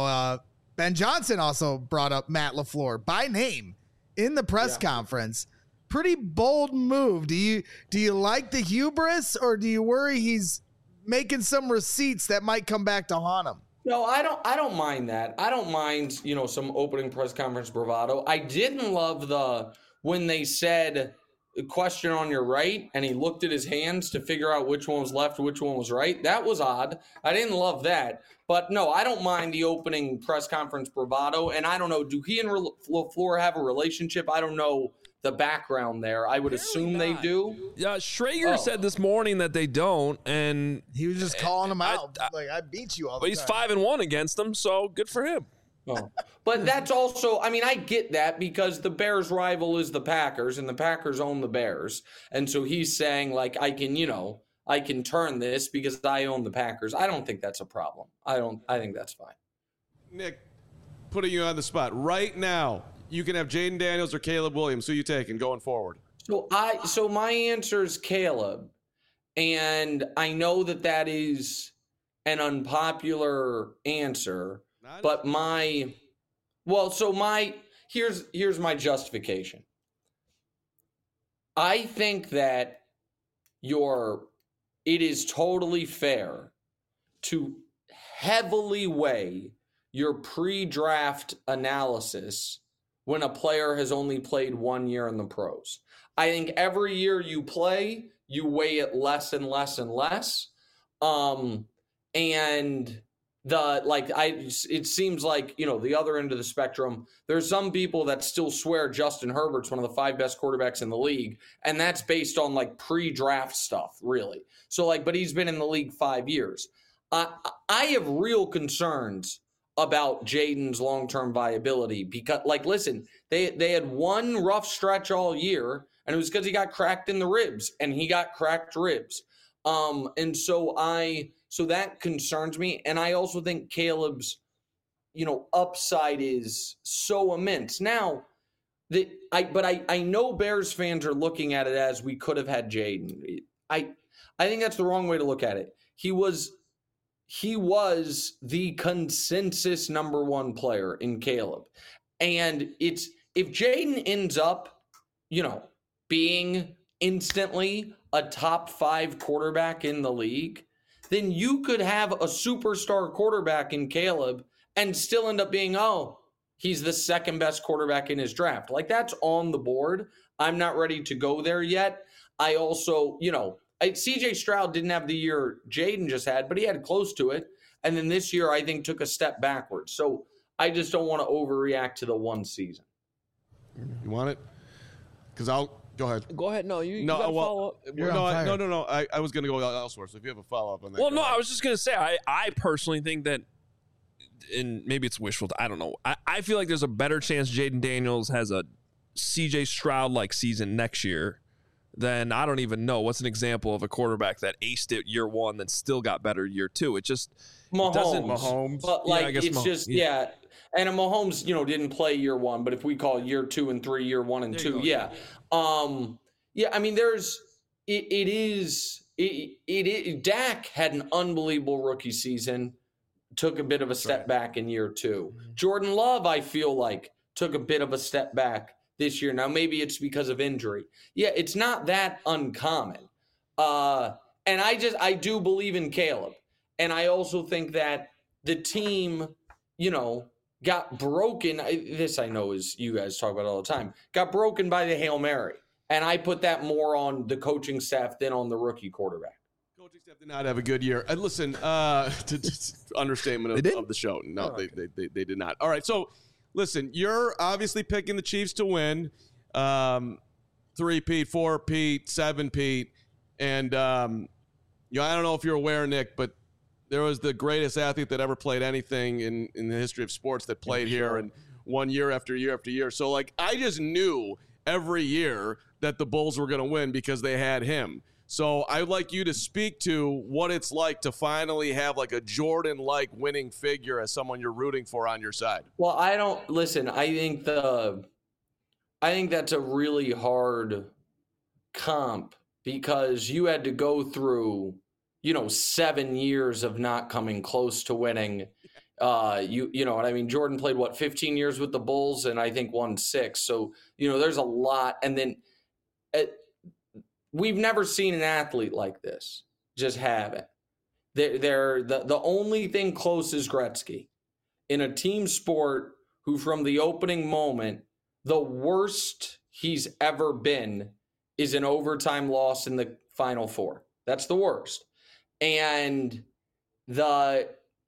Ben Johnson also brought up Matt LaFleur by name in the press conference. Pretty bold move. Do you like the hubris, or do you worry he's making some receipts that might come back to haunt him? No, I don't mind that. I don't mind, some opening press conference bravado. I didn't love when they said question on your right and he looked at his hands to figure out which one was left, which one was right. That was odd. I didn't love that. But no, I don't mind the opening press conference bravado. And I don't know, do he and LaFleur have a relationship? I don't know the background there. I would assume they do. Yeah, Schrager said this morning that they don't, and he was just calling them out. I beat you all the time. But he's 5-1 against them, so good for him. But that's also, I get that because the Bears' rival is the Packers, and the Packers own the Bears. And so he's saying, I can turn this because I own the Packers. I don't think that's a problem. I think that's fine. Nick, putting you on the spot right now, you can have Jaden Daniels or Caleb Williams. Who you taking going forward? So my answer is Caleb, and I know that is an unpopular answer, but here's my justification. I think that it is totally fair to heavily weigh your pre-draft analysis when a player has only played 1 year in the pros. I think every year you play, you weigh it less and less and less. It seems like, the other end of the spectrum, there's some people that still swear Justin Herbert's one of the 5 best quarterbacks in the league. And that's based on pre-draft stuff, really. So but he's been in the league 5 years. I have real concerns about Jaden's long-term viability because, listen, they had one rough stretch all year, and it was because he got cracked in the ribs, and he got cracked ribs. And so that concerns me, and I also think Caleb's, upside is so immense. Now, I know Bears fans are looking at it as we could have had Jaden. I think that's the wrong way to look at it. He was the consensus number 1 player in Caleb. And if Jaden ends up, being instantly a top 5 quarterback in the league, then you could have a superstar quarterback in Caleb and still end up being, he's the second best quarterback in his draft. That's on the board. I'm not ready to go there yet. I also, CJ Stroud didn't have the year Jaden just had, but he had close to it. And then this year, I think, took a step backwards. So I just don't want to overreact to the one season. You want it? Because go ahead. Go ahead. No, you got to follow up. No. I was going to go elsewhere. So if you have a follow-up on that. Well, no, I was just going to say, I personally think that, and maybe it's wishful, I don't know. I feel like there's a better chance Jaden Daniels has a CJ Stroud-like season next year, then I don't even know what's an example of a quarterback that aced it year one then still got better year two. It just doesn't. Mahomes. But and a Mahomes, didn't play year one, but if we call year 2 and 3 year 1 and 2, yeah. I mean, Dak had an unbelievable rookie season, took a bit of a step back in year 2. Jordan Love, I feel like, took a bit of a step back this year. Now, maybe it's because of injury. Yeah, it's not that uncommon. And I do believe in Caleb. And I also think that the team, got broken. This I know is you guys talk about it all the time. Got broken by the Hail Mary. And I put that more on the coaching staff than on the rookie quarterback. Coaching staff did not have a good year. Listen, understatement of the show. No, they did not. All right, so listen, you're obviously picking the Chiefs to win. 3-peat, 4-peat, 7-peat. And, I don't know if you're aware, Nick, but there was the greatest athlete that ever played anything in the history of sports that played here and won year after year after year. So, I just knew every year that the Bulls were going to win because they had him. So I'd like you to speak to what it's like to finally have a Jordan-like winning figure as someone you're rooting for on your side. Well, I think that's a really hard comp because you had to go through 7 years of not coming close to winning. You know what I mean? Jordan played 15 years with the Bulls and I think won 6. So, there's a lot. And then we've never seen an athlete like this. Just haven't. They're the only thing close is Gretzky in a team sport who from the opening moment, the worst he's ever been is an overtime loss in the Final Four. That's the worst. And in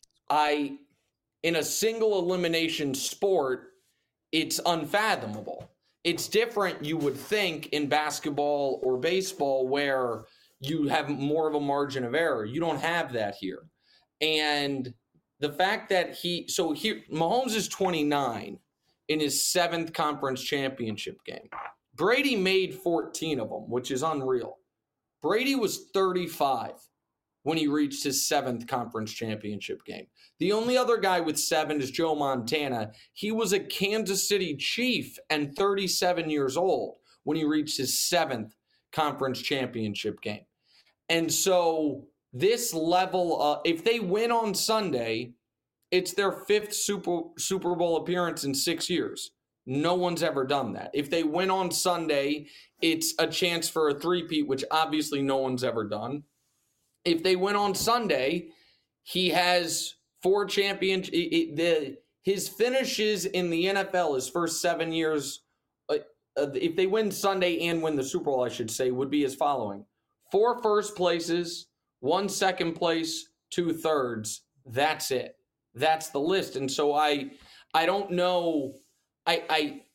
a single elimination sport, it's unfathomable. It's different, you would think, in basketball or baseball where you have more of a margin of error. You don't have that here. And the fact that Mahomes is 29 in his 7th conference championship game. Brady made 14 of them, which is unreal. Brady was 35 when he reached his 7th conference championship game. The only other guy with 7 is Joe Montana. He was a Kansas City Chief and 37 years old when he reached his 7th conference championship game. And so this level, if they win on Sunday, it's their 5th Super Bowl appearance in 6 years. No one's ever done that. If they win on Sunday, it's a chance for a 3-peat, which obviously no one's ever done. If they win on Sunday, he has 4 championships. His finishes in the NFL, his first 7 years, if they win Sunday and win the Super Bowl, I should say, would be as following: 4 first places, 1 second place, 2 thirds. That's it. That's the list. And so I don't know. It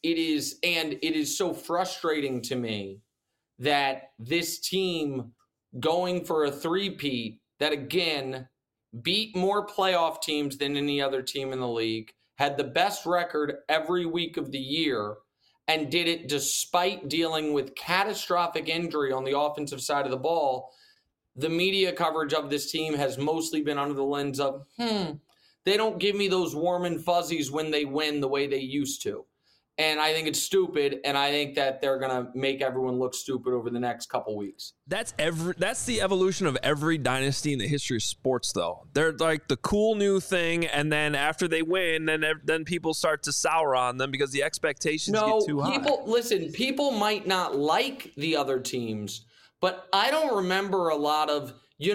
is so frustrating to me that this team going for a 3-peat that again beat more playoff teams than any other team in the league, had the best record every week of the year, and did it despite dealing with catastrophic injury on the offensive side of the ball. The media coverage of this team has mostly been under the lens of, they don't give me those warm and fuzzies when they win the way they used to. And I think it's stupid, and I think that they're going to make everyone look stupid over the next couple weeks. That's the evolution of every dynasty in the history of sports, though. They're like the cool new thing, and then after they win, then people start to sour on them because the expectations get too high. People might not like the other teams, but I don't remember a lot of,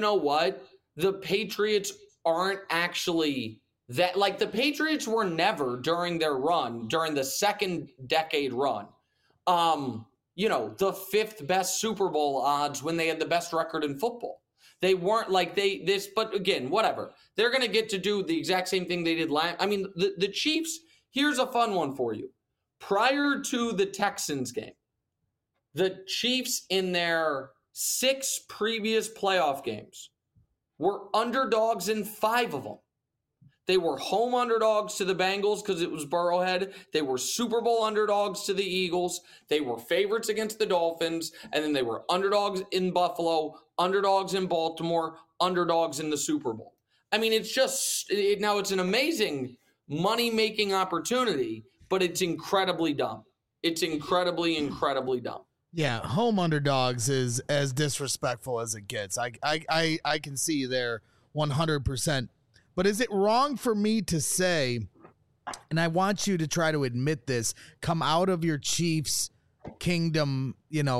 the Patriots aren't actually that, the Patriots were never during their run, during the second decade run, the 5th best Super Bowl odds when they had the best record in football. They weren't but again, whatever. They're going to get to do the exact same thing they did last. I mean, the Chiefs, here's a fun one for you. Prior to the Texans game, the Chiefs in their 6 previous playoff games were underdogs in 5 of them. They were home underdogs to the Bengals because it was Burrowhead. They were Super Bowl underdogs to the Eagles. They were favorites against the Dolphins. And then they were underdogs in Buffalo, underdogs in Baltimore, underdogs in the Super Bowl. I mean, it's just now it's an amazing money-making opportunity, but it's incredibly dumb. It's incredibly dumb. Yeah, home underdogs is as disrespectful as it gets. I can see you there 100%. But is it wrong for me to say, and I want you to try to admit this, come out of your Chiefs kingdom,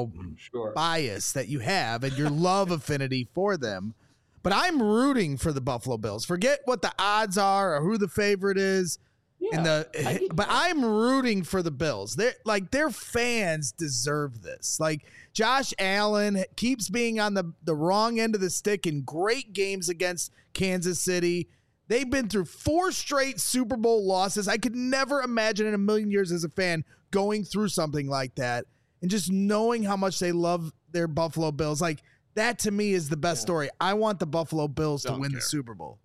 bias that you have and your love affinity for them. But I'm rooting for the Buffalo Bills. Forget what the odds are or who the favorite is. But I'm rooting for the Bills. Their fans deserve this. Like, Josh Allen keeps being on the wrong end of the stick in great games against Kansas City. They've been through 4 straight Super Bowl losses. I could never imagine in a million years as a fan going through something like that, and just knowing how much they love their Buffalo Bills. Like, that to me is the best story. I want the Buffalo Bills to win the Super Bowl.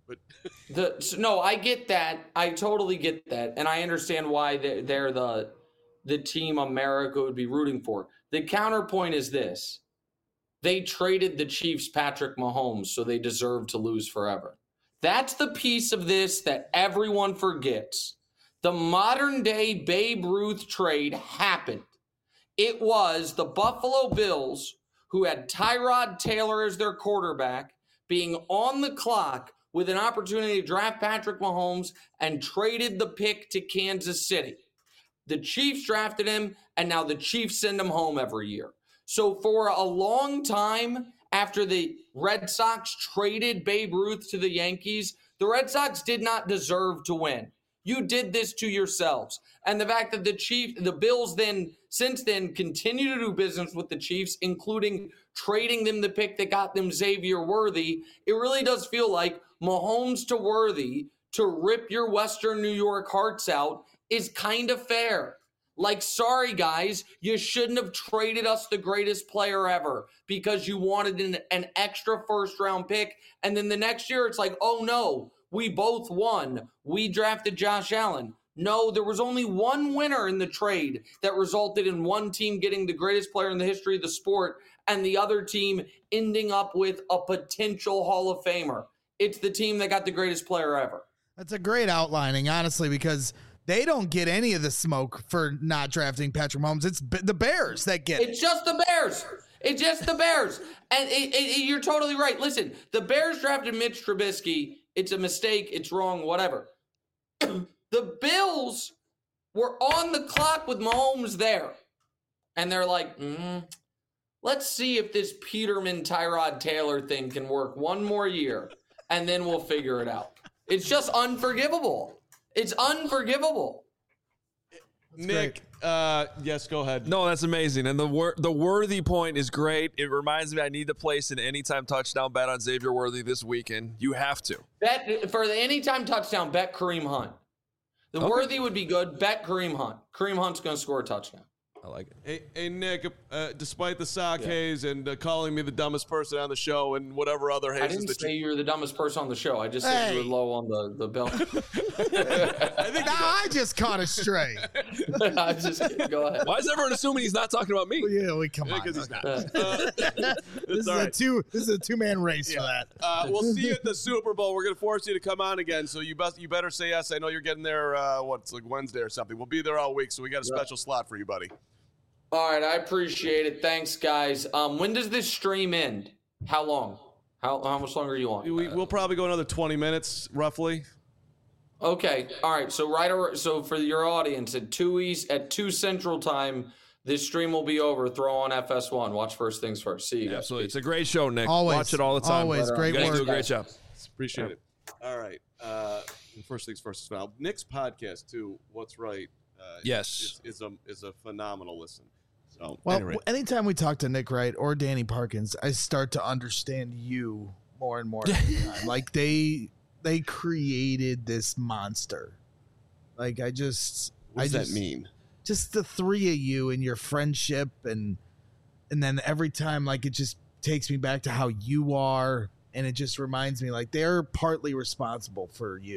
No, I get that. I totally get that. And I understand why they're the team America would be rooting for. The counterpoint is this. They traded the Chiefs Patrick Mahomes, so they deserve to lose forever. That's the piece of this that everyone forgets. The modern day Babe Ruth trade happened. It was the Buffalo Bills, who had Tyrod Taylor as their quarterback, being on the clock with an opportunity to draft Patrick Mahomes, and traded the pick to Kansas City. The Chiefs drafted him, and now the Chiefs send him home every year. So for a long time, after the Red Sox traded Babe Ruth to the Yankees, the Red Sox did not deserve to win. You did this to yourselves. And the fact that the Bills then, since then, continue to do business with the Chiefs, including trading them the pick that got them Xavier Worthy, it really does feel like Mahomes to Worthy to rip your Western New York hearts out is kind of fair. Like, sorry, guys, you shouldn't have traded us the greatest player ever because you wanted an extra first-round pick. And then the next year, it's like, oh, no, we both won. We drafted Josh Allen. No, there was only one winner in the trade that resulted in one team getting the greatest player in the history of the sport and the other team ending up with a potential Hall of Famer. It's the team that got the greatest player ever. That's a great outlining, honestly, because they don't get any of the smoke for not drafting Patrick Mahomes. It's the Bears that get it. It's just the Bears. It's just the Bears. And you're totally right. Listen, the Bears drafted Mitch Trubisky. It's a mistake. It's wrong, whatever. The Bills were on the clock with Mahomes there. And they're like, let's see if this Peterman-Tyrod Taylor thing can work one more year, and then we'll figure it out. It's just unforgivable. It's unforgivable. Nick, yes, go ahead. No, that's amazing. And the Worthy point is great. It reminds me I need to place an anytime touchdown bet on Xavier Worthy this weekend. You have to. Bet for the anytime touchdown, bet Kareem Hunt. The Worthy would be good. Bet Kareem Hunt. Kareem Hunt's going to score a touchdown. I like it. Hey Nick, despite the sock haze and calling me the dumbest person on the show and whatever other hazes I didn't say you were the dumbest person on the show. I just said you were low on the belt. I just caught a stray. Go ahead. Why is everyone assuming he's not talking about me? Well, yeah, come on. Because he's not. This is a two-man race for that. We'll see you at the Super Bowl. We're going to force you to come on again, so you better say yes. I know you're getting there, it's like Wednesday or something. We'll be there all week, so we got a special slot for you, buddy. All right, I appreciate it. Thanks, guys. When does this stream end? How long? How much longer are you on? We'll probably go another 20 minutes, roughly. Okay. All right. So for your audience, at 2 Central Time, this stream will be over. Throw on FS1. Watch First Things First. See you guys. Absolutely. It's a great show, Nick. Always. Watch it all the time. Always. Great you guys work. do a great job. Appreciate it. All right. First Things First as well. Nick's podcast, too, What's Right, yes, is a phenomenal listen. So, well, anyway. Anytime we talk to Nick Wright or Danny Parkins, I start to understand you more and more every time. Like they created this monster. Like what does that mean? Just the three of you and your friendship, and then every time, like, it just takes me back to how you are, and it just reminds me like they're partly responsible for you.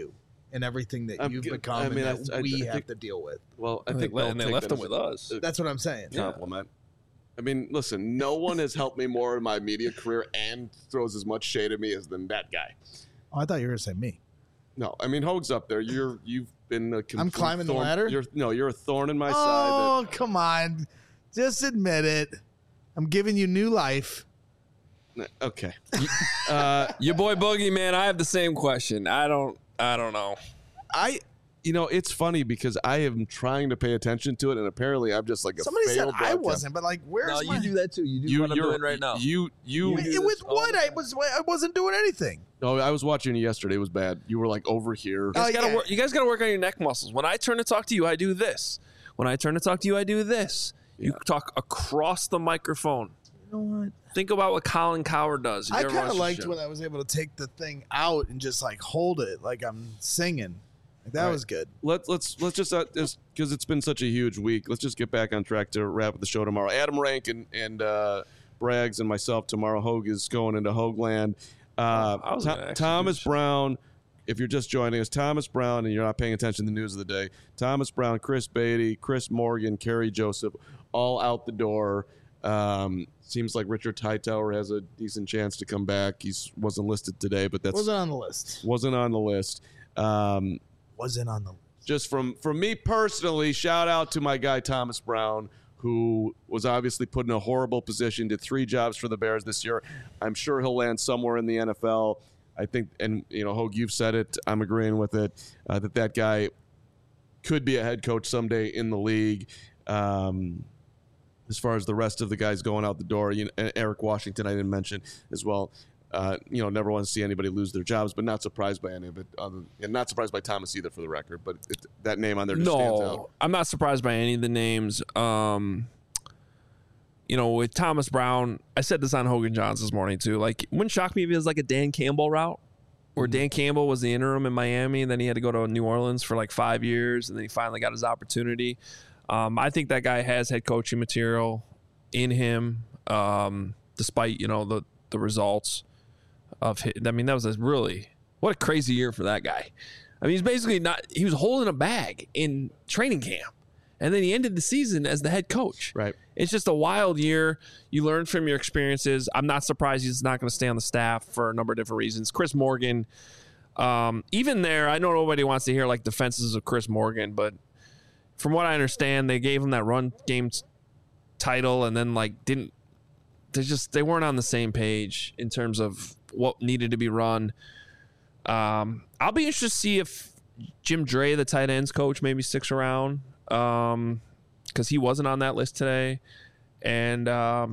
and everything that you've become and that we have to deal with. Well, I think they left them with us. That's what I'm saying. Compliment. I mean, listen, no one has helped me more in my media career and throws as much shade at me as than that guy. Oh, I thought you were going to say me. No, I mean, Hoag's up there. You've been a I'm climbing the ladder? You're a thorn in my side. Oh, come on. Just admit it. I'm giving you new life. Okay. Your boy Boogie, man, I have the same question. I don't know. It's funny because I am trying to pay attention to it, and apparently I'm just like a Somebody said broadcast. I wasn't, but like, where's No, my... you do that too. You do what I'm doing right now. With what? I wasn't doing anything. No, I was watching you yesterday. It was bad. You were like over here. You guys got to work on your neck muscles. When I turn to talk to you, I do this. When I turn to talk to you, I do this. Yeah. You talk across the microphone. You know what? Think about what Colin Cowherd does. I kind of liked when I was able to take the thing out and just like hold it like I'm singing. Like, that was good. Let's just because it's been such a huge week. Let's just get back on track to wrap up the show tomorrow. Adam Rank and Braggs and myself tomorrow. Hoag is going into Hoagland. Thomas Brown. If you're just joining us, Thomas Brown, and you're not paying attention to the news of the day, Thomas Brown, Chris Beatty, Chris Morgan, Kerry Joseph, all out the door. Seems like Richard Hightower has a decent chance to come back. He wasn't listed today, but wasn't on the list. Wasn't on the list. Wasn't on the list. Just from me personally, shout out to my guy Thomas Brown, who was obviously put in a horrible position, did 3 jobs for the Bears this year. I'm sure he'll land somewhere in the NFL. I think, and Hoag, you've said it. I'm agreeing with it. That guy could be a head coach someday in the league. As far as the rest of the guys going out the door, Eric Washington I didn't mention as well. Never want to see anybody lose their jobs, but not surprised by any of it. And not surprised by Thomas either, for the record. But that name on there just stands out. I'm not surprised by any of the names. With Thomas Brown, I said this on Hogan Johns this morning too. Like, wouldn't shock me if it was like a Dan Campbell route, where Dan Campbell was the interim in Miami, and then he had to go to New Orleans for like 5 years, and then he finally got his opportunity. I think that guy has head coaching material in him, despite the results of his. I mean, that was what a crazy year for that guy. I mean, he's basically he was holding a bag in training camp, and then he ended the season as the head coach. Right. It's just a wild year. You learn from your experiences. I'm not surprised he's not going to stay on the staff for a number of different reasons. Chris Morgan, even there, I know nobody wants to hear like defenses of Chris Morgan, but from what I understand, they gave him that run game title, and then they weren't on the same page in terms of what needed to be run. I'll be interested to see if Jim Dre, the tight ends coach, maybe sticks around, because he wasn't on that list today. And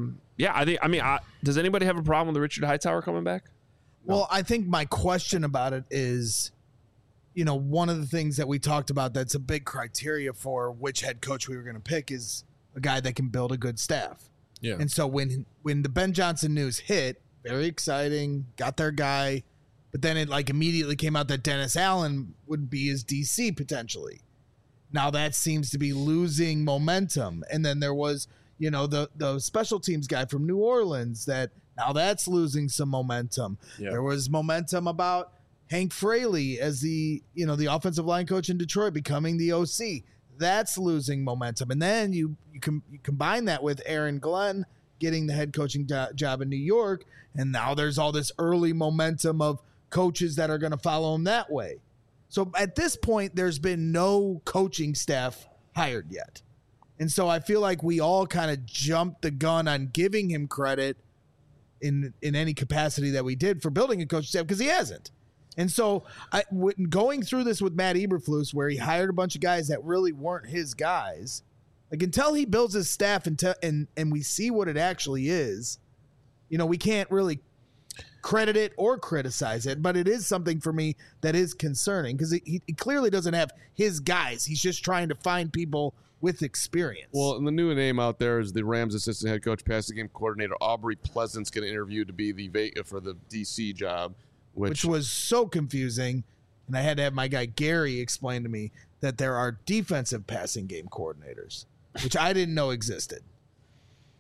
does anybody have a problem with Richard Hightower coming back? Well, I think my question about it is, one of the things that we talked about that's a big criteria for which head coach we were going to pick is a guy that can build a good staff. Yeah. And so when the Ben Johnson news hit, very exciting, got their guy, but then it immediately came out that Dennis Allen would be his DC potentially. Now that seems to be losing momentum. And then there was, the special teams guy from New Orleans now that's losing some momentum. Yeah. There was momentum about Hank Fraley as the offensive line coach in Detroit becoming the OC. That's losing momentum. And then you combine that with Aaron Glenn getting the head coaching job in New York, and now there's all this early momentum of coaches that are going to follow him that way. So at this point, there's been no coaching staff hired yet. And so I feel like we all kind of jumped the gun on giving him credit in any capacity that we did for building a coaching staff, because he hasn't. And so going through this with Matt Eberflus, where he hired a bunch of guys that really weren't his guys, until he builds his staff and we see what it actually is, we can't really credit it or criticize it, but it is something for me that is concerning, because he clearly doesn't have his guys. He's just trying to find people with experience. Well, and the new name out there is the Rams assistant head coach, passing game coordinator Aubrey Pleasant's going to interview to be for the DC job. Which was so confusing, and I had to have my guy Gary explain to me that there are defensive passing game coordinators, which I didn't know existed.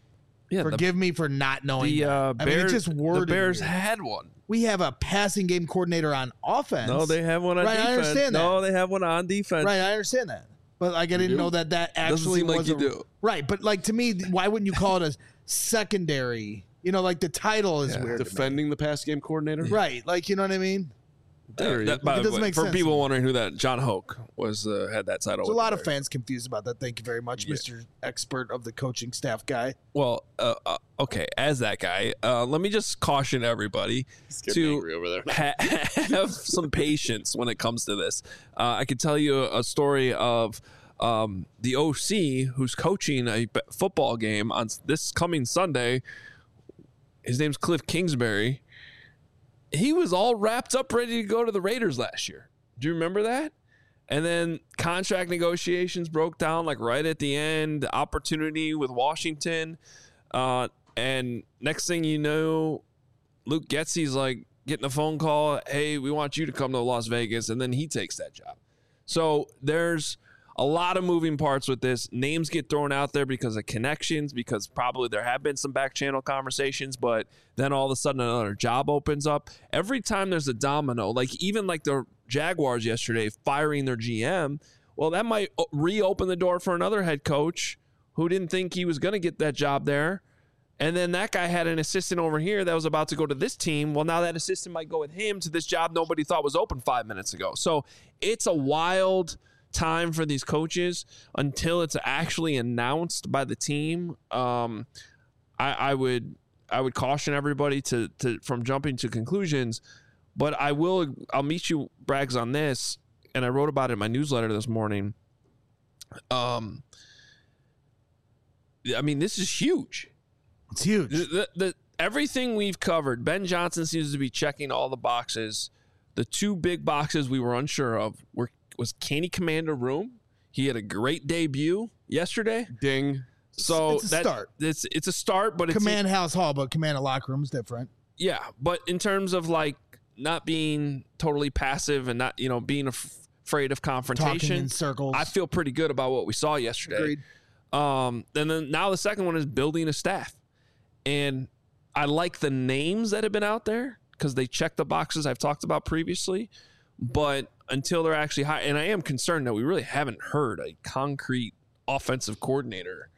Yeah, Forgive me for not knowing that. Bears, mean, it's just worded the Bears weird. had one. We have a passing game coordinator on offense. No, they have one on defense. I understand that. No, they have one on defense. Right, I understand that. But like, I didn't know that actually seem like was you do. Right, but like to me, why wouldn't you call it a secondary? You know, like the title is weird. Defending the pass game coordinator. Right, like you know what I mean. It doesn't make sense. For people wondering who that, John Hoke was had that title. There's a lot of fans confused about that. Thank you very much, Mr. Expert of the coaching staff guy. Well, okay, as that guy, let me just caution everybody to have some patience when it comes to this. I could tell you a story of the OC who's coaching a football game on this coming Sunday. His name's Cliff Kingsbury. He was all wrapped up, ready to go to the Raiders last year. Do you remember that? And then contract negotiations broke down like right at the end, opportunity with Washington. And next thing you know, Luke Getsy's like getting a phone call. Hey, we want you to come to Las Vegas. And then he takes that job. So there's a lot of moving parts with this. Names get thrown out there because of connections, because probably there have been some back channel conversations, but then all of a sudden another job opens up. Every time there's a domino, like even like the Jaguars yesterday firing their GM, well, that might reopen the door for another head coach who didn't think he was going to get that job there. And then that guy had an assistant over here that was about to go to this team. Well, now that assistant might go with him to this job nobody thought was open 5 minutes ago. So it's a wild time for these coaches until it's actually announced by the team. I would caution everybody to from jumping to conclusions, but I'll meet you, Braggs, on this, and I wrote about it in my newsletter this morning. I mean, this is huge. It's huge. Everything we've covered, Ben Johnson seems to be checking all the boxes. The two big boxes we were unsure of was Kenny Commander Room. He had a great debut yesterday. Ding. So it's a start. It's a start, but Command House Hall, but Command Locker Room is different. Yeah, but in terms of like not being totally passive and not being afraid of confrontation, talking in circles, I feel pretty good about what we saw yesterday. Agreed. And then now the second one is building a staff, and I like the names that have been out there because they check the boxes I've talked about previously, but until they're actually high, and I am concerned that we really haven't heard a concrete offensive coordinator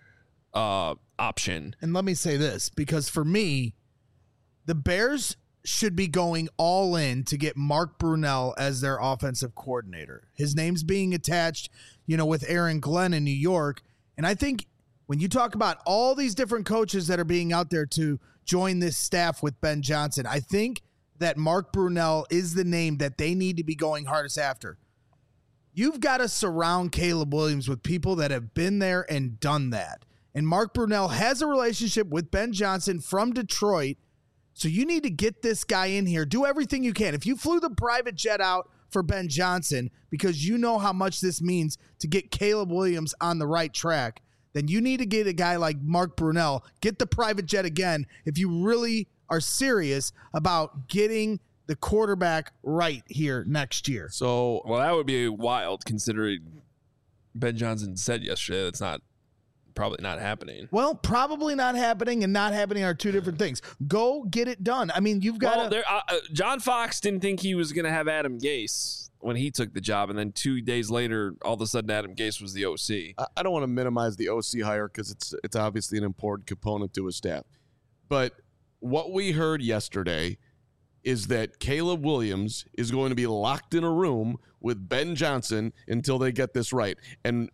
option. And let me say this, because for me, the Bears should be going all in to get Mark Brunell as their offensive coordinator. His name's being attached, with Aaron Glenn in New York. And I think when you talk about all these different coaches that are being out there to join this staff with Ben Johnson, I think that Mark Brunell is the name that they need to be going hardest after. You've got to surround Caleb Williams with people that have been there and done that. And Mark Brunell has a relationship with Ben Johnson from Detroit. So you need to get this guy in here. Do everything you can. If you flew the private jet out for Ben Johnson because you know how much this means to get Caleb Williams on the right track, then you need to get a guy like Mark Brunell. Get the private jet again if you really are serious about getting the quarterback right here next year. So, well, that would be wild considering Ben Johnson said yesterday that's probably not happening. Well, probably not happening and not happening are two different things. Go get it done. I mean, you've got John Fox didn't think he was going to have Adam Gase when he took the job, and then 2 days later, all of a sudden, Adam Gase was the OC. I don't want to minimize the OC hire because it's obviously an important component to his staff. But what we heard yesterday is that Caleb Williams is going to be locked in a room with Ben Johnson until they get this right. And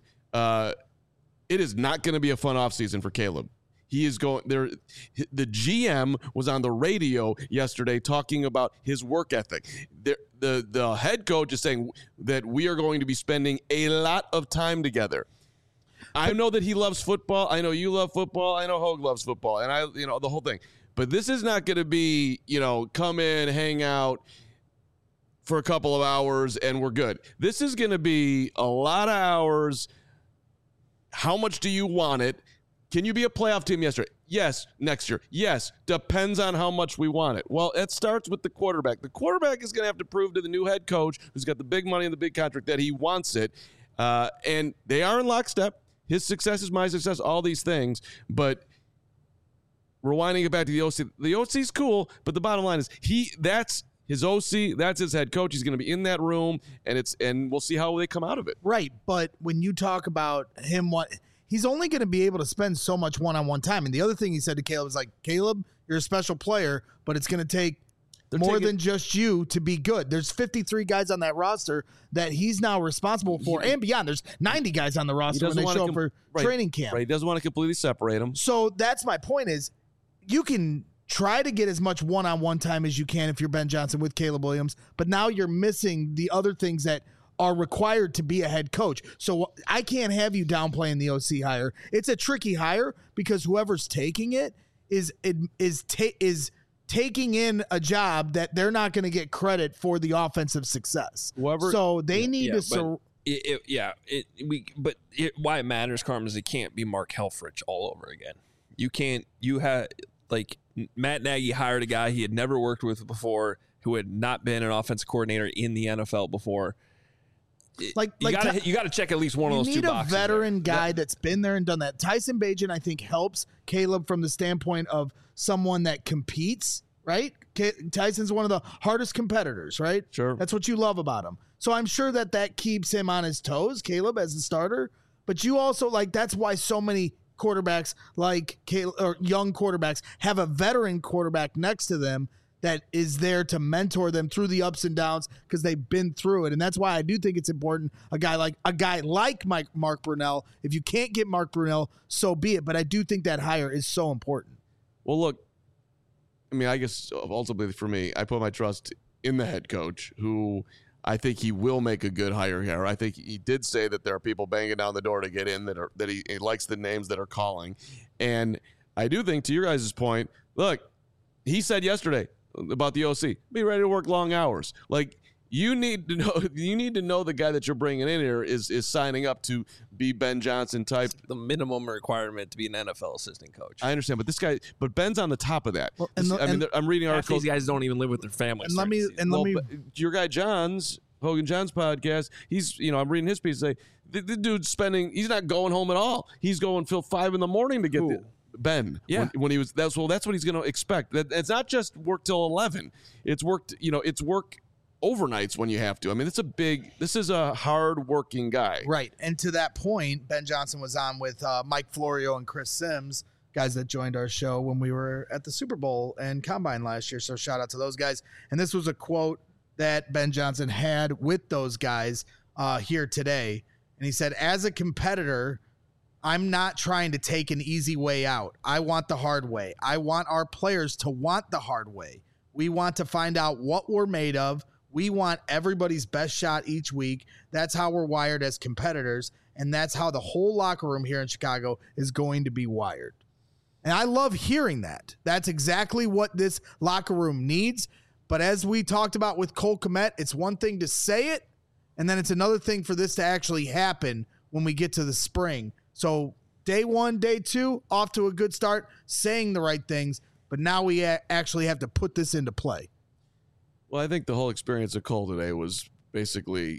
it is not going to be a fun offseason for Caleb. He is going there. The GM was on the radio yesterday talking about his work ethic. The head coach is saying that we are going to be spending a lot of time together. I know that he loves football. I know you love football. I know Hogue loves football, and the whole thing. But this is not going to be, come in, hang out for a couple of hours, and we're good. This is going to be a lot of hours. How much do you want it? Can you be a playoff team yesterday? Yes. Next year? Yes. Depends on how much we want it. Well, it starts with the quarterback. The quarterback is going to have to prove to the new head coach, who's got the big money and the big contract, that he wants it. And they are in lockstep. His success is my success, all these things. But rewinding it back to the OC. The OC's cool, but the bottom line is that's his OC, that's his head coach. He's going to be in that room, and we'll see how they come out of it. Right, but when you talk about him, he's only going to be able to spend so much one-on-one time. And the other thing he said to Caleb is like, Caleb, you're a special player, but it's going to take more than just you to be good. There's 53 guys on that roster that he's now responsible for, and beyond. There's 90 guys on the roster when they show up for training camp. Right, he doesn't want to completely separate them. So that's my point is you can try to get as much one-on-one time as you can if you're Ben Johnson with Caleb Williams, but now you're missing the other things that are required to be a head coach. So I can't have you downplaying the OC hire. It's a tricky hire because whoever's taking it is taking in a job that they're not going to get credit for the offensive success. So they need to. Why it matters, Carmen, is it can't be Mark Helfrich all over again. You had Matt Nagy hired a guy he had never worked with before, who had not been an offensive coordinator in the NFL before. You got to check at least one of those two boxes. You need a veteran guy that's been there and done that. Tyson Bagent, I think, helps Caleb from the standpoint of someone that competes, right? Tyson's one of the hardest competitors, right? Sure. That's what you love about him. So I'm sure that keeps him on his toes, Caleb, as a starter. But you also, that's why so many quarterbacks like Caleb, or young quarterbacks, have a veteran quarterback next to them that is there to mentor them through the ups and downs because they've been through it. And that's why I do think it's important. A guy like Mark Brunell, if you can't get Mark Brunell, so be it. But I do think that hire is so important. Well, look, I mean, I guess ultimately for me, I put my trust in the head coach, who I think he will make a good hire here. I think he did say that there are people banging down the door to get in that he likes the names that are calling. And I do think, to your guys' point, look, he said yesterday about the OC, be ready to work long hours. You need to know the guy that you're bringing in here is signing up to be Ben Johnson type. The minimum requirement to be an NFL assistant coach. I understand, but Ben's on the top of that. Well, I'm reading articles. These guys don't even live with their families. Your guy Hogan John's podcast. I'm reading his piece. Say the dude's he's not going home at all. He's going till 5 a.m. to get Ben. Yeah. When he was that's what he's going to expect. It's not just work till 11. It's work. It's work overnights when you have to. I mean, this is a hard-working guy. Right. And to that point, Ben Johnson was on with Mike Florio and Chris Sims, guys that joined our show when we were at the Super Bowl and Combine last year. So shout out to those guys. And this was a quote that Ben Johnson had with those guys here today. And he said, as a competitor, I'm not trying to take an easy way out. I want the hard way. I want our players to want the hard way. We want to find out what we're made of. We want everybody's best shot each week. That's how we're wired as competitors, and that's how the whole locker room here in Chicago is going to be wired. And I love hearing that. That's exactly what this locker room needs. But as we talked about with Cole Kmet, it's one thing to say it, and then it's another thing for this to actually happen when we get to the spring. So day 1, day 2, off to a good start, saying the right things, but now we actually have to put this into play. Well, I think the whole experience of Cole today was basically,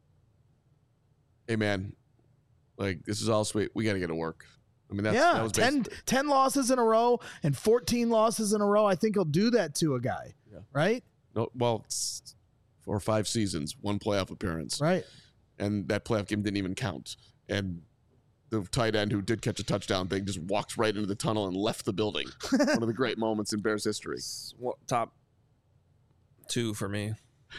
hey, man, this is all sweet. We got to get to work. I mean, that was 10 losses in a row and 14 losses in a row. I think he'll do that to a guy, right? No, well, it's 4 or 5 seasons, 1 playoff appearance. Right. And that playoff game didn't even count. And the tight end who did catch a touchdown thing just walked right into the tunnel and left the building. One of the great moments in Bears history. Top 2 for me.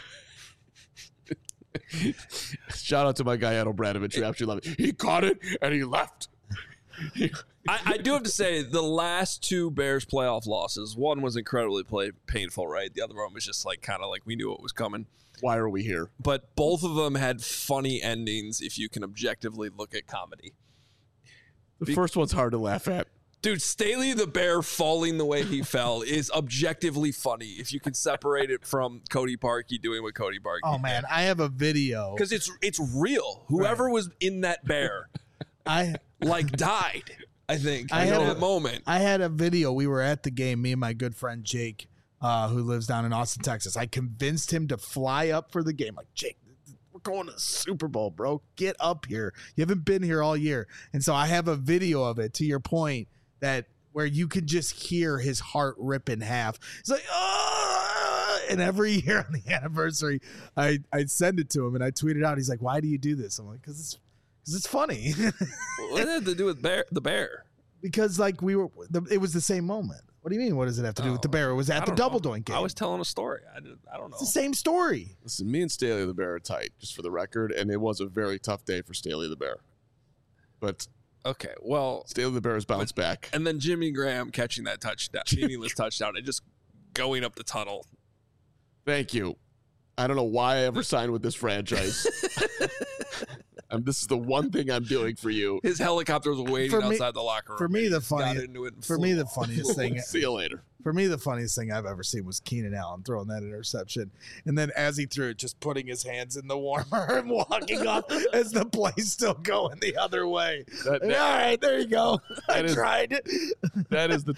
Shout out to my guy, Ed O'Bradovich, who actually loved it. He caught it, and he left. I do have to say, the last 2 Bears playoff losses, one was incredibly painful, right? The other one was just kind of we knew what was coming. Why are we here? But both of them had funny endings if you can objectively look at comedy. The first one's hard to laugh at. Dude, Staley the Bear falling the way he fell is objectively funny if you can separate it from Cody Parkey doing what Cody Parkey did. Man, I have a video. Because it's real. Whoever was in that bear died, I think, at that moment. I had a video. We were at the game, me and my good friend Jake, who lives down in Austin, Texas. I convinced him to fly up for the game. Jake, we're going to the Super Bowl, bro. Get up here. You haven't been here all year. And so I have a video of it, to your point, that where you could just hear his heart rip in half. It's like, oh! And every year on the anniversary, I'd send it to him and I tweet it out. He's like, why do you do this? I'm like, because it's funny. What did it have to do with the bear? Because like it was the same moment. What do you mean? What does it have to do with the bear? It was at the Double Doink game. I was telling a story. I don't know. It's the same story. Listen, me and Staley the Bear are tight, just for the record, and it was a very tough day for Staley the Bear. But okay, well, Staley the Bear has bounced back. And then Jimmy Graham catching that touchdown, meaningless touchdown, and just going up the tunnel. Thank you. I don't know why I ever signed with this franchise. This is the one thing I'm doing for you. His helicopter was waiting outside the locker room. For me, the funniest thing. See you later. For me, the funniest thing I've ever seen was Keenan Allen throwing that interception, and then as he threw it, just putting his hands in the warmer and walking up as the play's still going the other way. All right, there you go. I tried it. That is the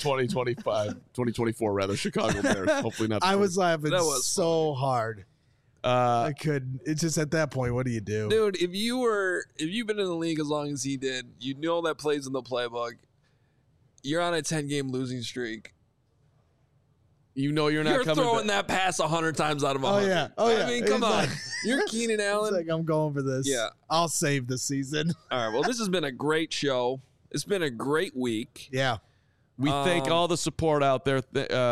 2024 rather Chicago Bears. Hopefully not. I was laughing so hard. I couldn't. It's just at that point, what do you do, dude? If you've been in the league as long as he did, you know that plays in the playbook. You're on a 10-game losing streak. You know you're throwing that pass 100 times out of 100. Oh yeah. I mean, come on. You're Keenan Allen. It's like, I'm going for this. Yeah. I'll save the season. All right. Well, this has been a great show. It's been a great week. Yeah. We thank all the support out there.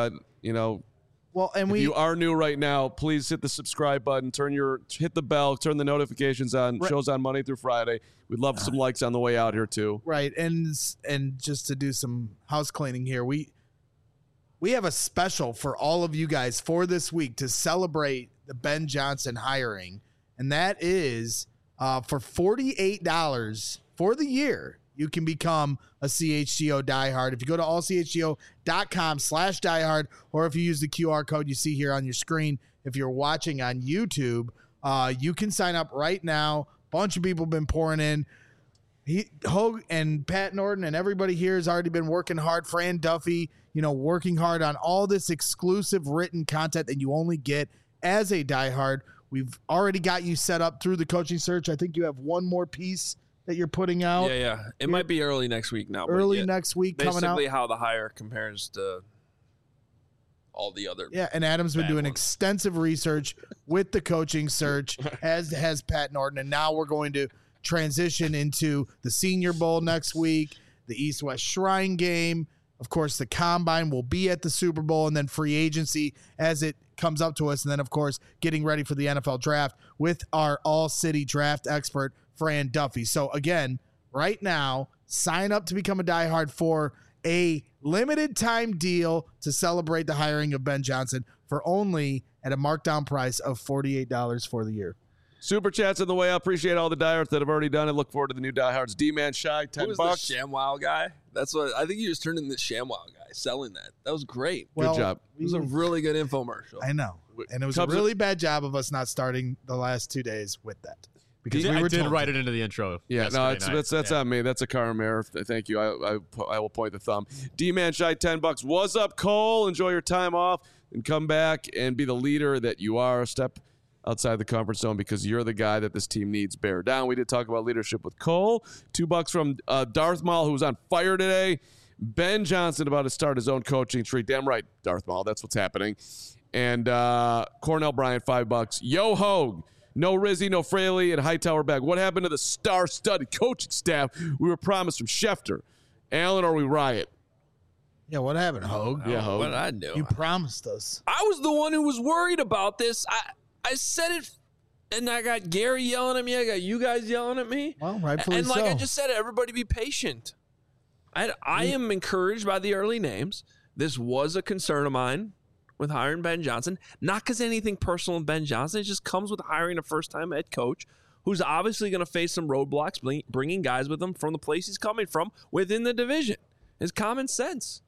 Well, and if you are new right now, please hit the subscribe button, hit the bell, turn the notifications on. Right. Shows on Monday through Friday. We'd love some likes on the way out here too. Right, and just to do some house cleaning here, we have a special for all of you guys for this week to celebrate the Ben Johnson hiring, and that is for $48 for the year. You can become a CHGO diehard. If you go to allchgo.com/diehard, or if you use the QR code you see here on your screen, if you're watching on YouTube, you can sign up right now. Bunch of people have been pouring in. Hogue and Pat Norton and everybody here has already been working hard. Fran Duffy, working hard on all this exclusive written content that you only get as a diehard. We've already got you set up through the coaching search. I think you have one more piece that you're putting out. Yeah. It might be early next week now. Next week coming out. Basically how the hire compares to all the other. Yeah, and Adam's been doing extensive research with the coaching search, as has Pat Norton. And now we're going to transition into the Senior Bowl next week, the East-West Shrine game. Of course, the Combine will be at the Super Bowl, and then free agency as it comes up to us. And then, of course, getting ready for the NFL draft with our all-city draft expert, Fran Duffy. So again, right now, sign up to become a diehard for a limited time deal to celebrate the hiring of Ben Johnson for only at a markdown price of $48 for the year. Super chats on the way. I appreciate all the diehards that have already done it. Look forward to the new diehards. D-Man Shy, $10. Who was the ShamWow guy? That's what I think you just turned into the ShamWow guy selling that. That was great. Good job. It was a really good infomercial. I know. And it was a really bad job of us not starting the last 2 days with that. Because I did write it into the intro. Yeah, no, that's on me. That's a Karam error. Thank you. I will point the thumb. D-Man Shy, $10. What's up, Cole? Enjoy your time off and come back and be the leader that you are. Step outside the comfort zone because you're the guy that this team needs. Bear down. We did talk about leadership with Cole. $2 from Darth Maul, who was on fire today. Ben Johnson about to start his own coaching tree. Damn right, Darth Maul. That's what's happening. And Cornell Bryant, $5. Yo, Hogue. No Rizzy, no Fraley, and Hightower back. What happened to the star-studded coaching staff we were promised from Schefter? Allen, or we riot? Yeah, what happened, Hogue? Yeah, Hogue. What did I do? You promised us. I was the one who was worried about this. I said it, and I got Gary yelling at me. I got you guys yelling at me. Well, rightfully and like so. I just said, everybody be patient. I am encouraged by the early names. This was a concern of mine with hiring Ben Johnson. Not because anything personal with Ben Johnson. It just comes with hiring a first-time head coach who's obviously going to face some roadblocks, bringing guys with him from the place he's coming from within the division. It's common sense.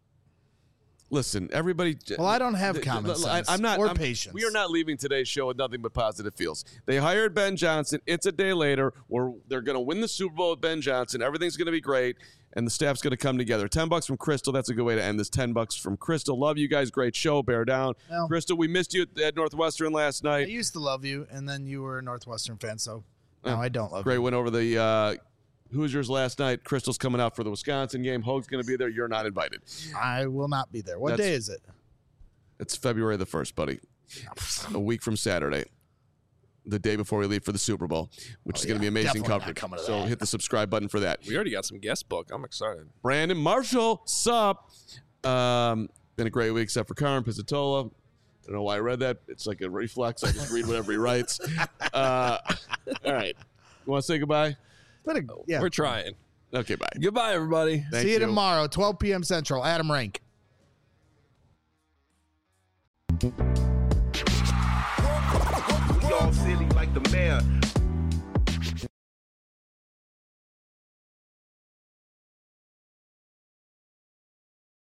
Listen, everybody. Well, I don't have common sense or patience. We are not leaving today's show with nothing but positive feels. They hired Ben Johnson. It's a day later where they're going to win the Super Bowl with Ben Johnson. Everything's going to be great, and the staff's going to come together. $10 from Crystal. That's a good way to end this. $10 from Crystal. Love you guys. Great show. Bear down. Well, Crystal, we missed you at Northwestern last night. I used to love you, and then you were a Northwestern fan, so now I don't love you. Great win over the Hoosiers last night. Crystal's coming out for the Wisconsin game. Hoag's going to be there. You're not invited. I will not be there. What day is it? It's February the 1st, buddy. A week from Saturday. The day before we leave for the Super Bowl, which is going to be amazing coverage. So hit the subscribe button for that. We already got some guest book. I'm excited. Brandon Marshall, sup? Been a great week, except for Carmen Pizzatola. I don't know why I read that. It's like a reflex. I just read whatever he writes. All right. You want to say goodbye? Yeah. We're trying. Okay, bye. Goodbye, everybody. See you tomorrow, 12 p.m. Central. Adam Rank. We all silly like the mayor.